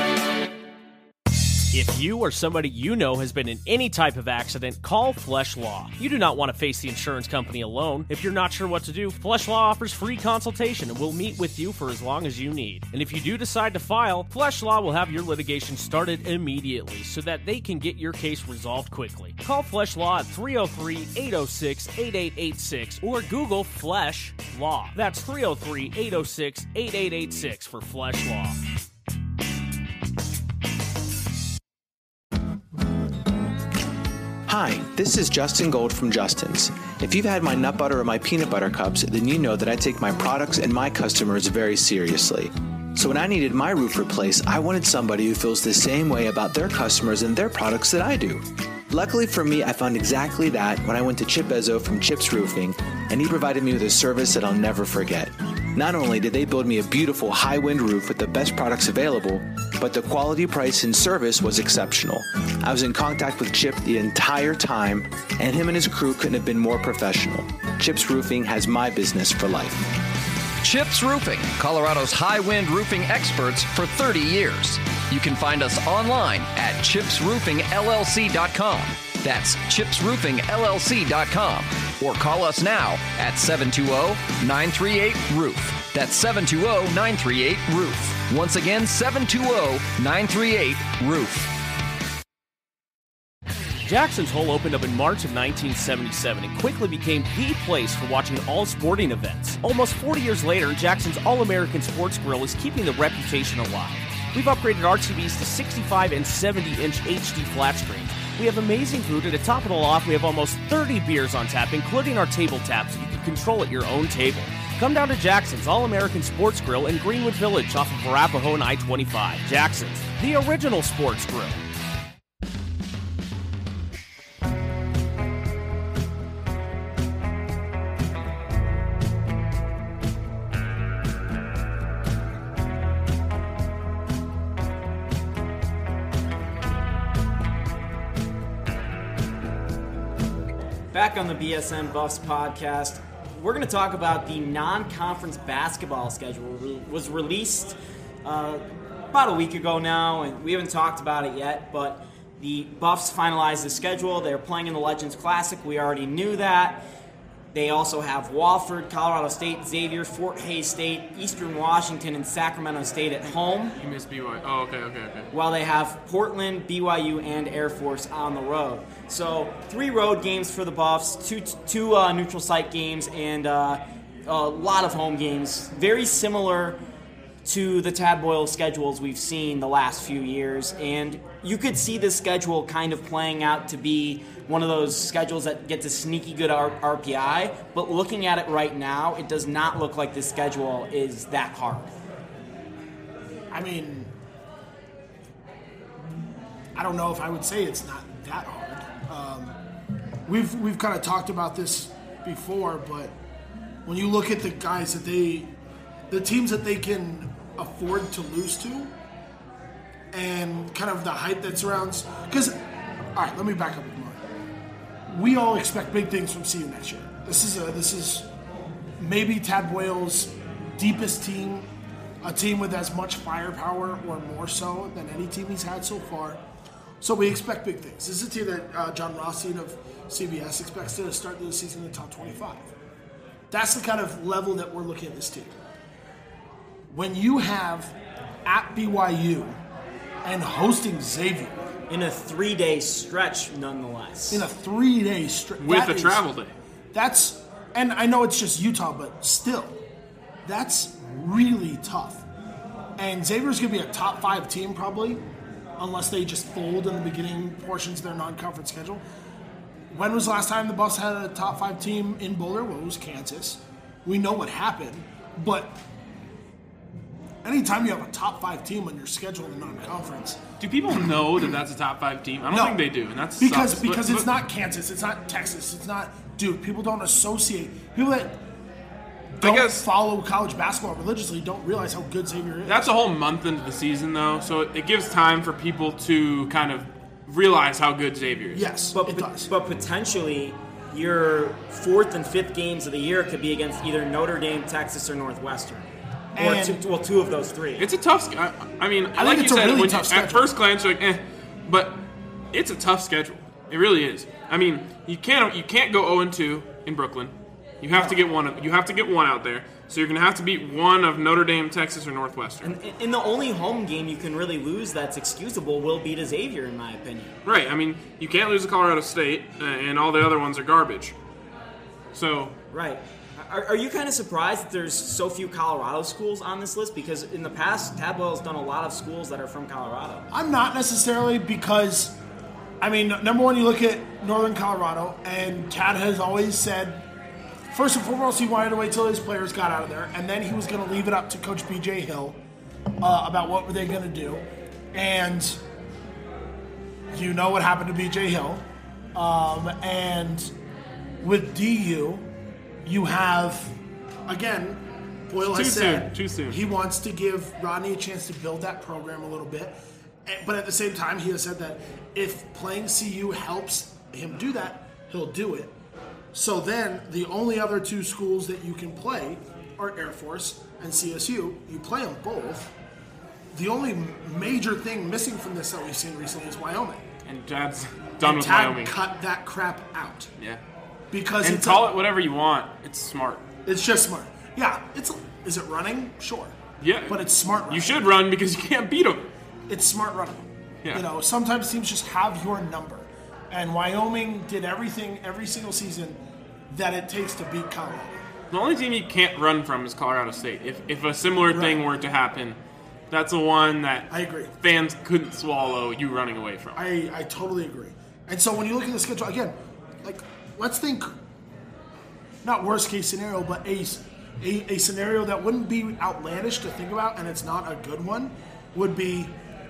If you or somebody you know has been in any type of accident, call Flesh Law. You do not want to face the insurance company alone. If you're not sure what to do, Flesh Law offers free consultation and will meet with you for as long as you need. And if you do decide to file, Flesh Law will have your litigation started immediately so that they can get your case resolved quickly. Call Flesh Law at 303-806-8886 or Google Flesh Law. That's 303-806-8886 for Flesh Law. Hi, this is Justin Gold from Justin's. If you've had my nut butter or my peanut butter cups, then you know that I take my products and my customers very seriously. So when I needed my roof replaced, I wanted somebody who feels the same way about their customers and their products that I do. Luckily for me, I found exactly that when I went to Chip Ezzo from Chip's Roofing, and he provided me with a service that I'll never forget. Not only did they build me a beautiful high-wind roof with the best products available, but the quality, price, and service was exceptional. I was in contact with Chip the entire time, and him and his crew couldn't have been more professional. Chip's Roofing has my business for life. Chip's Roofing, Colorado's high-wind roofing experts for 30 years. You can find us online at chipsroofingllc.com. That's chipsroofingllc.com. Or call us now at 720-938-ROOF. That's 720-938-ROOF. Once again, 720-938-ROOF. Jackson's Hole opened up in March of 1977 and quickly became the place for watching all sporting events. Almost 40 years later, Jackson's All-American Sports Grill is keeping the reputation alive. We've upgraded our TVs to 65 and 70-inch HD flat screens. We have amazing food, and to top it all off, we have almost 30 beers on tap, including our table tap, so you can control at your own table. Come down to Jackson's All-American Sports Grill in Greenwood Village off of Arapahoe and I-25. Jackson's, the original sports grill. Back on the BSN Buffs podcast, we're going to talk about the non-conference basketball schedule. It was released about a week ago now, and we haven't talked about it yet, but the Buffs finalized the schedule. They're playing in the Legends Classic. We already knew that. They also have Wofford, Colorado State, Xavier, Fort Hays State, Eastern Washington, and Sacramento State at home. You missed BYU. Oh, okay. While they have Portland, BYU, and Air Force on the road. So 3 road games for the Buffs, two neutral site games, and a lot of home games. Very similar to the Tad Boyle schedules we've seen the last few years. And you could see this schedule kind of playing out to be one of those schedules that gets a sneaky good RPI, but looking at it right now, it does not look like this schedule is that hard. I mean, I don't know if I would say it's not that hard. We've kind of talked about this before, but when you look at the guys that the teams that they can afford to lose to, and kind of the hype that surrounds, because, all right, let me back up a moment. We all expect big things from CU next year. This is maybe Tad Boyle's deepest team, a team with as much firepower or more so than any team he's had so far. So we expect big things. This is a team that John Rothstein of CBS expects to start the season in the top 25. That's the kind of level that we're looking at this team. When you have at BYU and hosting Xavier, in a 3-day stretch, nonetheless. In a 3-day stretch. With a travel day. That's, and I know it's just Utah, but still, that's really tough. And Xavier's going to be a top 5 team probably, unless they just fold in the beginning portions of their non-conference schedule. When was the last time the Buffs had a top 5 team in Boulder? Well, it was Kansas. We know what happened, but anytime you have a top 5 team on your schedule in the non-conference. Do people know that that's a top 5 team? I don't think they do, and that's because it's not Kansas, it's not Texas, it's not Duke. People don't associate. People that don't follow college basketball religiously don't realize how good Xavier is. That's a whole month into the season, though, so it gives time for people to kind of realize how good Xavier is. Yes, but it does. But potentially, your 4th and 5th games of the year could be against either Notre Dame, Texas, or Northwestern. Or two of those 3. It's a tough schedule. I mean, like you said, really at first glance, you're like, but it's a tough schedule. It really is. I mean, you can't go 0-2 in Brooklyn. You have to get one. You have to get one out there. So you're going to have to beat one of Notre Dame, Texas, or Northwestern. And the only home game you can really lose that's excusable will be to Xavier, in my opinion. Right. I mean, you can't lose to Colorado State, and all the other ones are garbage. So. Right. Are you kind of surprised that there's so few Colorado schools on this list? Because in the past, Tabwell has done a lot of schools that are from Colorado. I'm not necessarily because, I mean, number one, you look at Northern Colorado, and Tad has always said, first and foremost, he wanted to wait till his players got out of there, and then he was going to leave it up to Coach B.J. Hill about what were they going to do. And you know what happened to B.J. Hill. And with DU, you have, again, Boyle has said too soon. He wants to give Rodney a chance to build that program a little bit. But at the same time, he has said that if playing CU helps him do that, he'll do it. So then the only other 2 schools that you can play are Air Force and CSU. You play them both. The only major thing missing from this that we've seen recently is Wyoming. And Tad's done with Wyoming. Cut that crap out. Yeah. Because and call it whatever you want. It's smart. It's just smart. Yeah. Is it running? Sure. Yeah. But it's smart running. You should run because you can't beat them. It's smart running. Yeah. You know, sometimes teams just have your number. And Wyoming did everything every single season that it takes to beat Colorado. The only team you can't run from is Colorado State. If a similar thing were to happen, that's the one that I agree. Fans couldn't swallow you running away from. I totally agree. And so when you look at the schedule, again, like, let's think, not worst case scenario, but a scenario that wouldn't be outlandish to think about, and it's not a good one, would be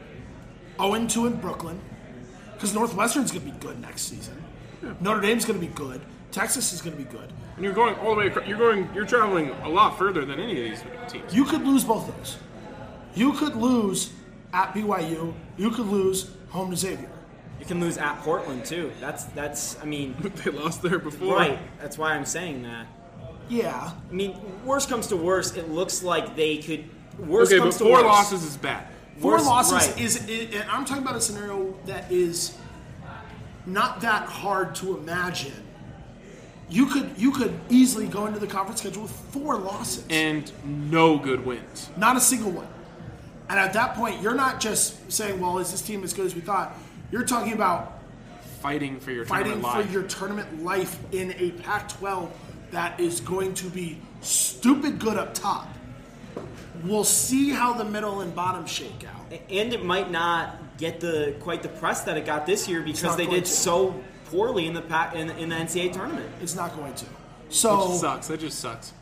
0-2 in Brooklyn, because Northwestern's going to be good next season. Yeah. Notre Dame's going to be good. Texas is going to be good. And you're going all the way. You're traveling a lot further than any of these teams. You could lose both of those. You could lose at BYU. You could lose home to Xavier. You can lose at Portland too. That's. I mean, they lost there before. Right. That's why I'm saying that. Yeah. I mean, worst comes to worst, it looks like they could. Worst okay, comes but to 4 worst. losses is bad. 4 losses is. And I'm talking about a scenario that is not that hard to imagine. You could easily go into the conference schedule with 4 losses. And no good wins. Not a single one. And at that point, you're not just saying, well, is this team as good as we thought? You're talking about fighting for your tournament life in a Pac-12 that is going to be stupid good up top. We'll see how the middle and bottom shake out. And it might not get quite the press that it got this year because they did so poorly in the NCAA tournament. It's not going to. So which sucks. That just sucks.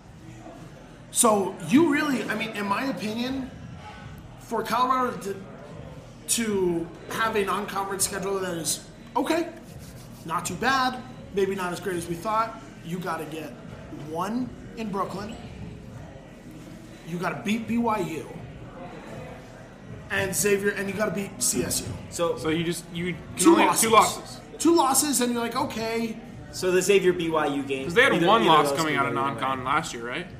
So you really, I mean, in my opinion, for Colorado to have a non-conference schedule that is okay, not too bad, maybe not as great as we thought, you got to get 1 in Brooklyn. You got to beat BYU and Xavier, and you got to beat CSU. So you can only have 2 losses. 2 losses, and you're like, okay. So the Xavier BYU game. Because they had 1 loss coming out of non-con last year, right?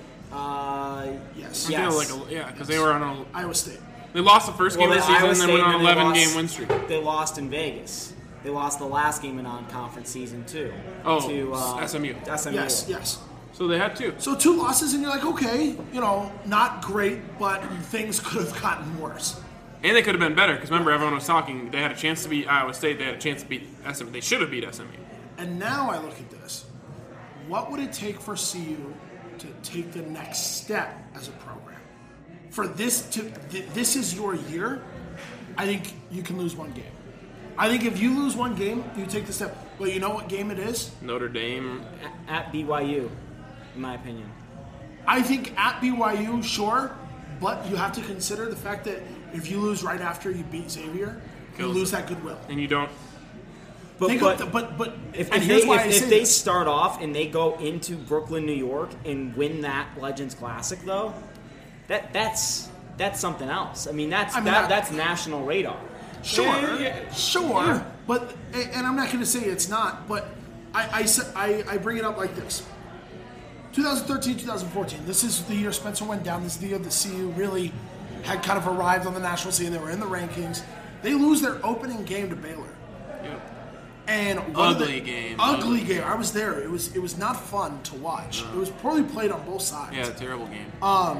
Yes. Because they were on Iowa State. They lost the first game of the season and then went on an 11-game win streak. They lost in Vegas. They lost the last game in non-conference season, too. Oh, to SMU. Yes. So they had 2. So 2 losses, and you're like, okay, not great, but things could have gotten worse. And they could have been better, because remember, everyone was talking, they had a chance to beat Iowa State, they had a chance to beat SMU. They should have beat SMU. And now I look at this. What would it take for CU to take the next step as a program? For this is your year, I think you can lose 1 game. I think if you lose 1 game, you take the step. Well, you know what game it is? Notre Dame. At BYU, in my opinion. I think at BYU, sure, But you have to consider the fact that if you lose right after you beat Xavier, you lose that goodwill. And you don't. But if they start off and they go into Brooklyn, New York, and win that Legends Classic, though, that's something else. I mean, that's national radar. Sure. Yeah. But I'm not going to say it's not. But I bring it up like this: 2013, 2014. This is the year Spencer went down. This is the year the CU really had kind of arrived on the national scene. They were in the rankings. They lose their opening game to Baylor. Yep. And ugly game. I was there. It was not fun to watch. It was poorly played on both sides. Yeah, terrible game.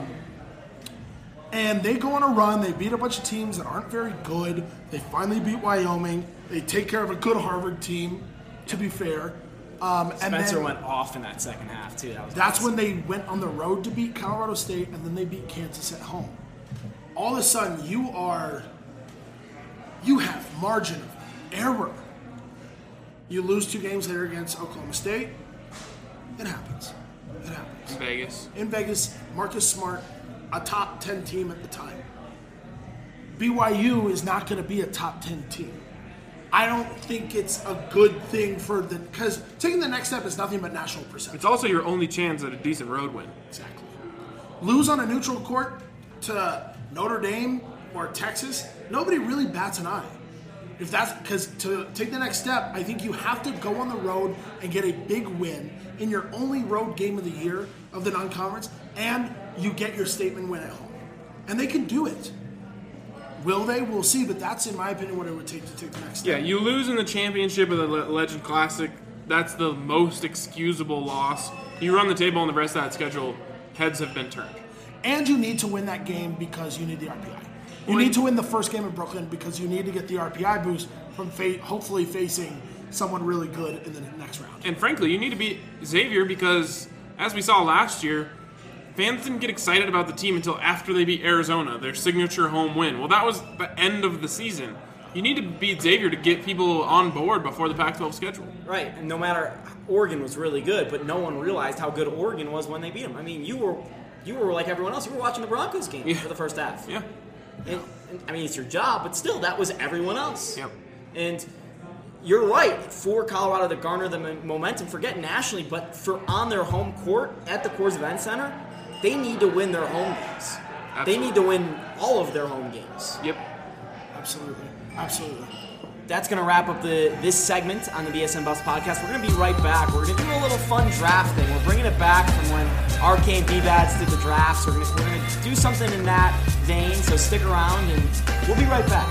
And they go on a run. They beat a bunch of teams that aren't very good. They finally beat Wyoming. They take care of a good Harvard team, to be fair. Spencer went off in that second half, too. That's when they went on the road to beat Colorado State, and then they beat Kansas at home. All of a sudden, you have margin of error. You lose 2 games later against Oklahoma State. It happens. In Vegas, Marcus Smart, a top 10 team at the time. BYU is not going to be a top 10 team. I don't think it's a good thing because taking the next step is nothing but national perception. It's also your only chance at a decent road win. Exactly. Lose on a neutral court to Notre Dame or Texas, nobody really bats an eye. If that's because to take the next step, I think you have to go on the road and get a big win in your only road game of the year of the non-conference, and you get your statement win at home. And they can do it. Will they? We'll see, but that's, in my opinion, what it would take to take the next step. Yeah, you lose in the championship of the Legend Classic. That's the most excusable loss. You run the table on the rest of that schedule, heads have been turned. And you need to win that game because you need the RPI. You need to win the first game in Brooklyn because you need to get the RPI boost from hopefully facing someone really good in the next round. And frankly, you need to beat Xavier because, as we saw last year, fans didn't get excited about the team until after they beat Arizona, their signature home win. Well, that was the end of the season. You need to beat Xavier to get people on board before the Pac-12 schedule. Right, and no matter, Oregon was really good, but no one realized how good Oregon was when they beat them. I mean, you were like everyone else. You were watching the Broncos game for the first half. Yeah. And, I mean, it's your job, but still, that was everyone else. Yep. And you're right, for Colorado to garner the momentum, forget nationally, but for on their home court at the Coors Event Center, they need to win their home games. Absolutely. They need to win all of their home games. Yep. Absolutely. That's going to wrap up this segment on the BSN Buffs podcast. We're going to be right back. We're going to do a little fun draft thing. We're bringing it back from when Arcane B-Bats did the drafts. We're going to do something in that vein, so stick around, and we'll be right back.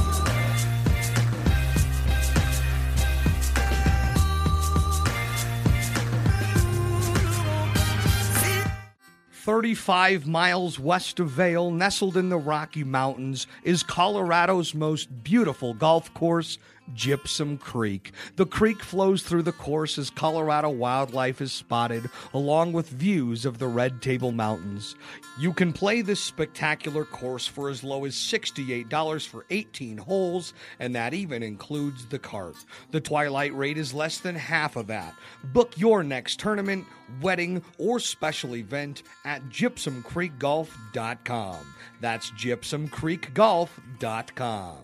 35 miles west of Vail, nestled in the Rocky Mountains, is Colorado's most beautiful golf course, Gypsum Creek. The creek flows through the course as Colorado wildlife is spotted, along with views of the Red Table Mountains. You can play this spectacular course for as low as $68 for 18 holes, and that even includes the cart. The twilight rate is less than half of that. Book your next tournament, wedding, or special event at gypsumcreekgolf.com. That's gypsumcreekgolf.com.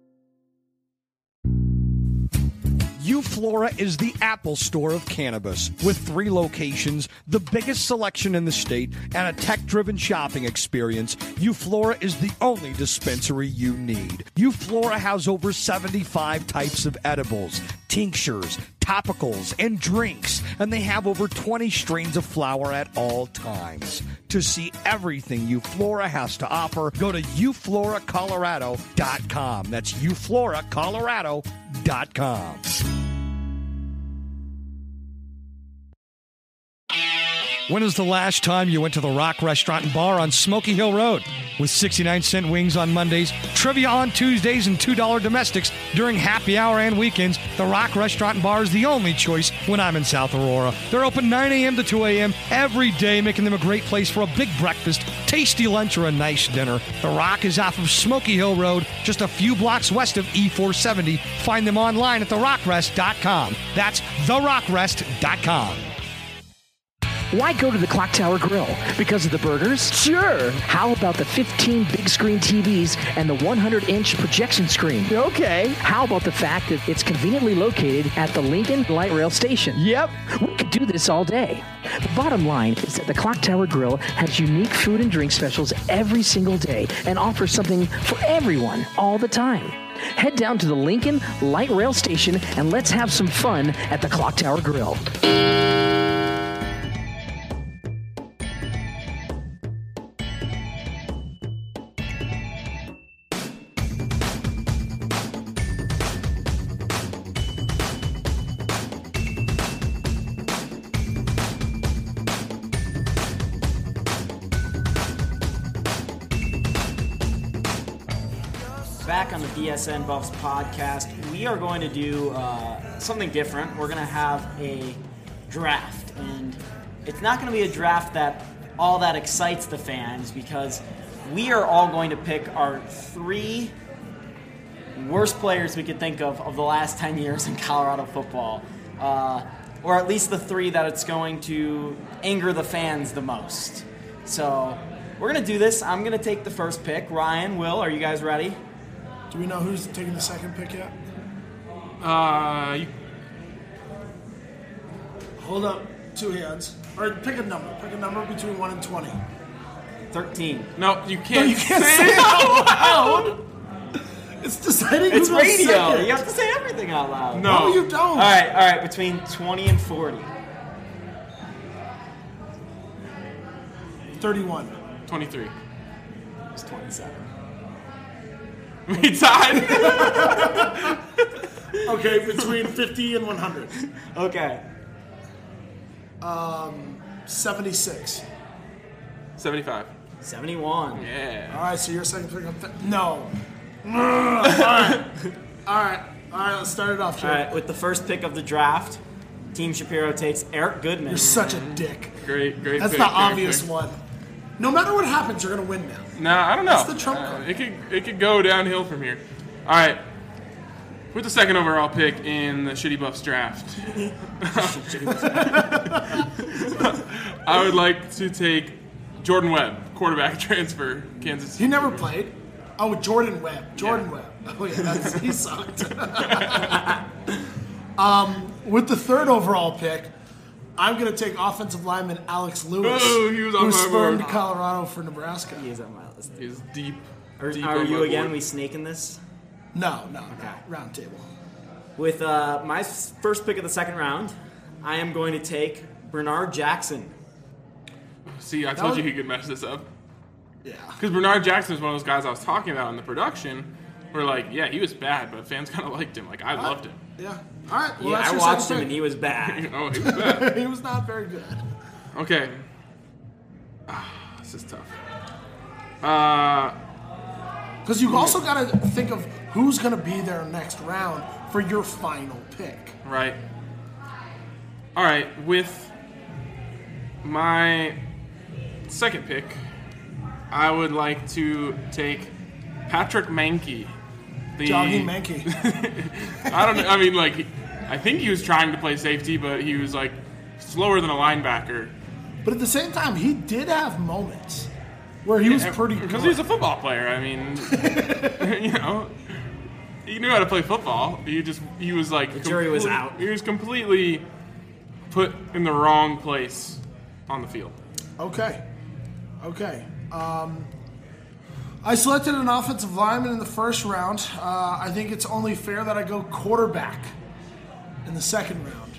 Euflora is the Apple Store of cannabis. With 3 locations, the biggest selection in the state, and a tech-driven shopping experience, Euflora is the only dispensary you need. Euflora has over 75 types of edibles, tinctures, topicals, and drinks, and they have over 20 strains of flower at all times. To see everything Euflora has to offer, go to eufloracolorado.com. That's eufloracolorado.com. When was the last time you went to the Rock Restaurant and Bar on Smoky Hill Road? With 69-cent wings on Mondays, trivia on Tuesdays, and $2 domestics during happy hour and weekends, the Rock Restaurant and Bar is the only choice when I'm in South Aurora. They're open 9 a.m. to 2 a.m. every day, making them a great place for a big breakfast, tasty lunch, or a nice dinner. The Rock is off of Smoky Hill Road, just a few blocks west of E470. Find them online at therockrest.com. That's therockrest.com. Why go to the Clock Tower Grill? Because of the burgers? Sure. How about the 15 big screen TVs and the 100-inch projection screen? Okay. How about the fact that it's conveniently located at the Lincoln Light Rail Station? Yep. We could do this all day. The bottom line is that the Clock Tower Grill has unique food and drink specials every single day and offers something for everyone all the time. Head down to the Lincoln Light Rail Station and let's have some fun at the Clock Tower Grill. Back on the BSN Buffs podcast, we are going to do something different. We're going to have a draft, and it's not going to be a draft that all that excites the fans because we are all going to pick our 3 worst players we could think of the last 10 years in Colorado football, or at least the 3 that it's going to anger the fans the most. So we're going to do this. I'm going to take the first pick. Ryan, Will, are you guys ready? Do we know who's taking the second pick yet? Hold up 2 hands. Or pick a number. Pick a number between 1 and 20. 13. No, you can't. You can't say it out loud. It's deciding It's who goes radio. second. You have to say everything out loud. No, you don't. All right. Between 20 and 40. 31. 23. It's 27. We tied. Okay, between 50 and 100. Okay. 76. 75. 71. Yeah. All right, so your second pick. No. All right, let's start it off, Jay. All right, with the first pick of the draft, Team Shapiro takes Eric Goodman. You're such a dick. Great That's pick, the great obvious pick. one. No matter what happens, you're going to win now. Nah, I don't know. That's the trump card. It could go downhill from here. All right. With the second overall pick in the Shitty Buffs draft, I would like to take Jordan Webb, quarterback transfer, Kansas City. He never played. Oh, Jordan Webb. Webb. Oh, yeah, he sucked. With the third overall pick, I'm going to take offensive lineman Alex Lewis, he was on who my spurned board. Colorado for Nebraska. He is on my list. He's deep. Are deep you on my again? board. We snaking this? No. Round table. With my first pick of the second round, I am going to take Bernard Jackson. See, I told you he could mess this up. Yeah. Because Bernard Jackson is one of those guys I was talking about in the production. Where he was bad, but fans kind of liked him. I loved him. Yeah. All right. Well, Yeah, that's I your watched second him pick. and he was bad. Oh, he was bad. He was not very good. Okay. This is tough. Because you also got to think of who's going to be there next round for your final pick. Right. All right. With my second pick, I would like to take Patrick Mankey. Jogging Mankey. I don't know. I mean, I think he was trying to play safety, but he was slower than a linebacker. But at the same time, he did have moments where he was pretty good. Because he's a football player. I mean, he knew how to play football. He was the jury was out. He was completely put in the wrong place on the field. Okay. I selected an offensive lineman in the first round. I think it's only fair that I go quarterback in the second round.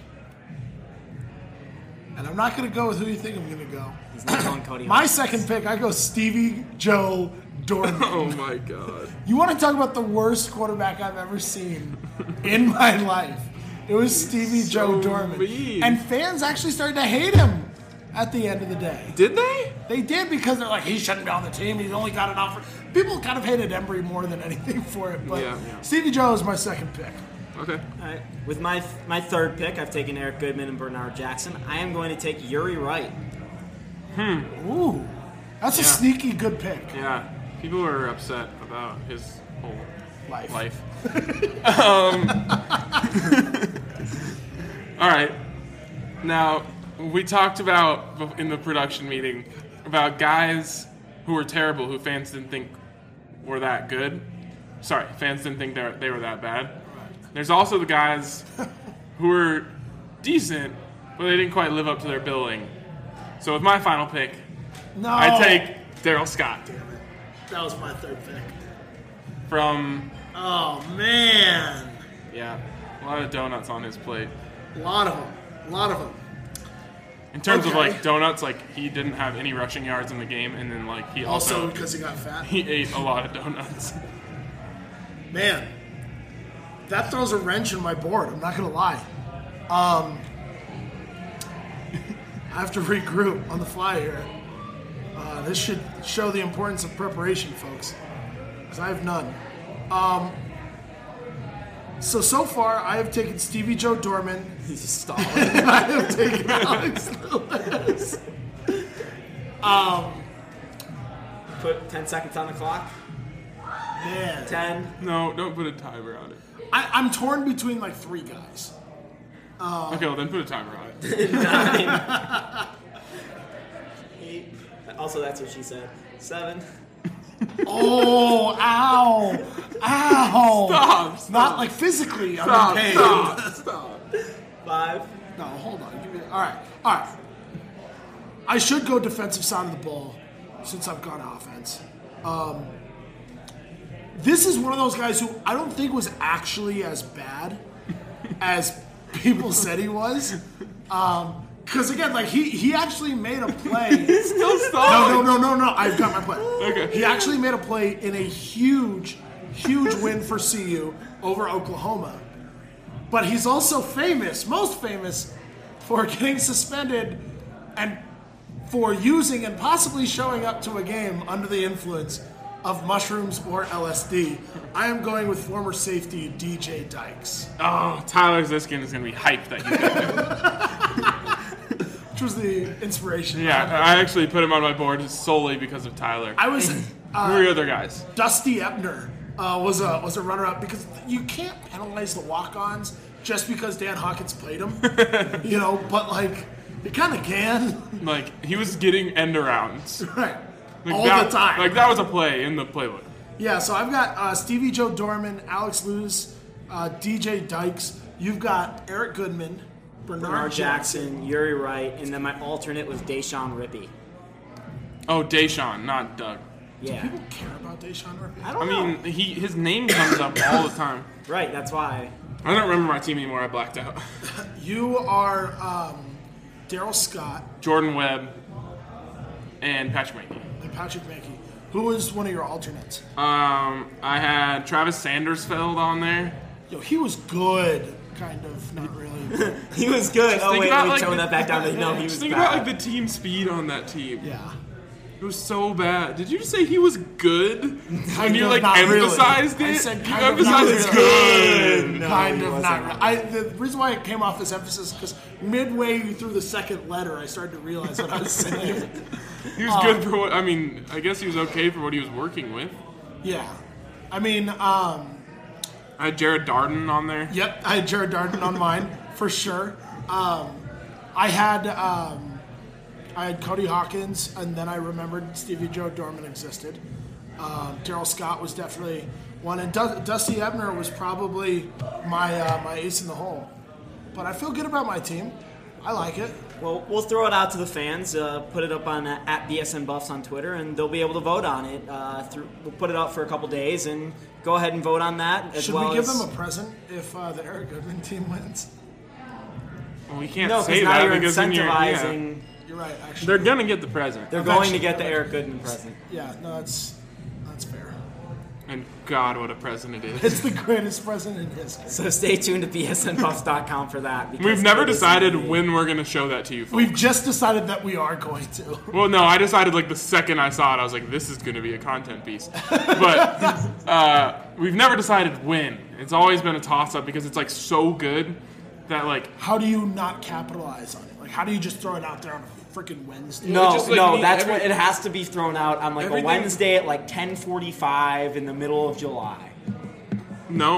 And I'm not going to go with who you think I'm going to go. He's not going Cody My Hawkins. second pick, I go Stevie Joe Dorman. Oh my God. You want to talk about the worst quarterback I've ever seen in my life? It was Stevie Joe Dorman. mean. And fans actually started to hate him at the end of the day. Did they? They did because they're like, he shouldn't be on the team. He's only got an offer. People kind of hated Embry more than anything for it. But Yeah. Stevie Joe is my second pick. Okay. All right. With my third pick, I've taken Eric Goodman and Bernard Jackson. I am going to take Yuri Wright. Ooh. That's a sneaky good pick. Yeah. People were upset about his whole life. All right. Now, We talked about in the production meeting about guys who were terrible, who fans didn't think were that good. Sorry, fans didn't think they were that bad. There's also the guys who were decent, but they didn't quite live up to their billing. So with my final pick, I take Daryl Scott. Damn it. That was my third pick. From... Oh, man. Yeah, a lot of donuts on his plate. A lot of them. In terms of, like, donuts, like, he didn't have any rushing yards in the game, and then, like, he also because he got fat? He ate a lot of donuts. Man, that throws a wrench in my board. I'm not going to lie. I have to regroup on the fly here. This should show the importance of preparation, folks, because I have none. So far, I have taken Stevie Joe Dorman. He's stalling. I have taken Alex Lewis. Put 10 seconds on the clock. Man. 10. No, don't put a timer on it. I'm torn between like 3 guys. Okay, well then put a timer on it. 9. 8. Also, that's what she said. 7. Oh, ow. Stop. Not like physically. Stop. I'm in pain. Stop. 5. No, hold on. Give me. All right. I should go defensive side of the ball since I've gone offense. This is one of those guys who I don't think was actually as bad as people said he was. Because again, like he actually made a play. He's still stalling. No. I've got my play. Okay. He actually made a play in a huge win for CU over Oklahoma. But he's also most famous, for getting suspended and for using and possibly showing up to a game under the influence of mushrooms or LSD. I am going with former safety DJ Dykes. Oh, Tyler Ziskin is going to be hyped that he's got it. Which was the inspiration. Yeah, I actually put him on my board solely because of Tyler. I was... Who are your other guys? Dusty Ebner was a runner-up because you can't penalize the walk-ons just because Dan Hawkins played him. But like, you kind of can. Like, he was getting end-arounds. Right. Like all that, the time. Like, that was a play in the playbook. Yeah, so I've got Stevie Joe Dorman, Alex Lewis, DJ Dykes. You've got Eric Goodman, Bernard Jackson, Yuri Wright, and then my alternate was Deshaun Rippey. Oh, Deshaun, not Doug. Yeah. Do people care about Deshaun Rippey? I don't know. His name comes up all the time. Right, that's why. I don't remember my team anymore. I blacked out. You are Daryl Scott. Jordan Webb. And Patrick Mackey. Who was one of your alternates? I had Travis Sandersfeld on there. Yo, he was good. Kind of, not really. He was good. Just oh, wait, let me like tone that back down. No, he was think bad. about like the team speed on that team. Yeah. It was so bad. Did you just say he was good? And you like not emphasized really. it? I said You kind of emphasized not it's really. good. No, Kind he of wasn't. not really. The reason why it came off as emphasis is because midway through the second letter, I started to realize what I was saying. He was good for what, I guess he was okay for what he was working with. Yeah. I had Jared Darden on there. Yep, I had Jared Darden on mine, for sure. I had Cody Hawkins, and then I remembered Stevie Joe Dorman existed. Daryl Scott was definitely one, and Dusty Ebner was probably my ace in the hole. But I feel good about my team. I like it. Well, we'll throw it out to the fans. Put it up on at BSN Buffs on Twitter, and they'll be able to vote on it. We'll put it up for a couple days, and go ahead and vote on that. Should we give them a present if the Eric Goodman team wins? Well, we can't No, say now that you're because incentivizing. You're right, actually. They're gonna get the present. They're going to get the Eric Goodman present. Yeah, no, that's fair. And God, what a present it is. It's the greatest present in history. So stay tuned to bsnbuffs.com for that. because We've never it is decided gonna be- when we're gonna show that to you folks. We've just decided that we are going to. Well, no, I decided like the second I saw it, I was like, this is going to be a content piece. But we've never decided when. It's always been a toss-up because it's like so good that like... How do you not capitalize on it? Like, how do you just throw it out there on a freaking Wednesday? No, just, like, that's what it has to be thrown out on like a Everything- Wednesday at like 10:45 in the middle of July. No.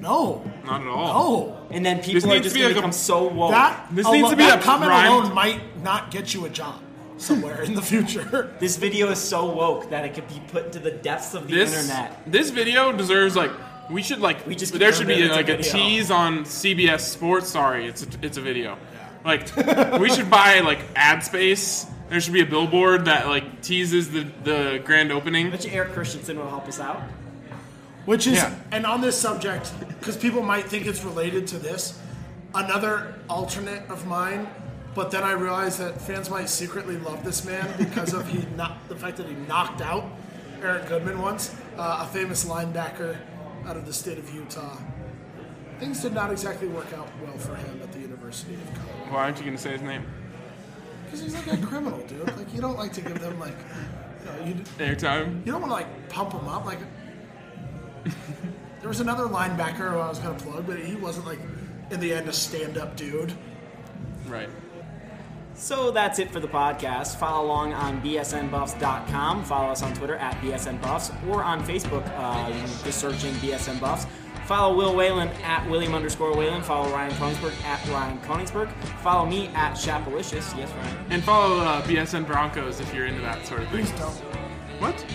No. Not at all. No. And then This people are needs just to be going to like a- become so woke. That comment alone might not get you a job somewhere in the future. This video is so woke that it could be put to the depths of the internet. This video deserves there should be like a tease on CBS Sports. Sorry, it's a video. Like we should buy like ad space. There should be a billboard that like teases the grand opening. I bet you Eric Christensen will help us out. Which is, and on this subject, because people might think it's related to this, another alternate of mine, but then I realized that fans might secretly love this man because of the fact that he knocked out Eric Goodman once, a famous linebacker out of the state of Utah. Things did not exactly work out well for him at the University of Colorado. Why aren't you going to say his name? Because he's like a criminal, dude. Like, you don't like to give them, like, airtime. You don't want to, like, pump them up. Like, there was another linebacker who I was going to plug, but he wasn't, like, in the end, a stand-up dude. Right. So that's it for the podcast. Follow along on bsnbuffs.com. Follow us on Twitter at bsnbuffs or on Facebook. You can just search in BSN Buffs. Follow Will Whalen at William_Whalen. Follow Ryan Koenigsberg at Ryan Koenigsberg. Follow me at Shapalicious. Yes, Ryan. And follow BSN Broncos if you're into that sort of thing. Please don't. What?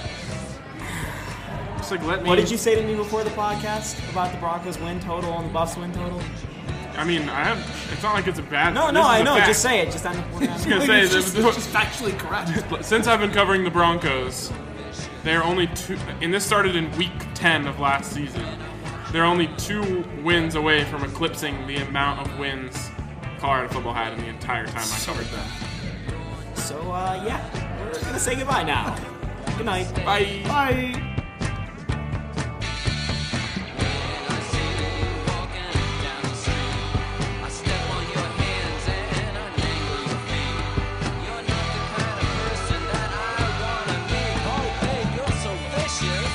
Just like let me. What did you say to me before the podcast about the Broncos win total and the Buffs win total? I mean, it's not like it's a bad. No, I know. Just say it. Just on the. I was gonna say it's just factually correct. Since I've been covering the Broncos, they're only two. And this started in week 10 of last season. They're only 2 wins away from eclipsing the amount of wins Colorado football had in the entire time I covered them. So yeah, we're gonna say goodbye now. Good night. Bye. Bye. You're so vicious.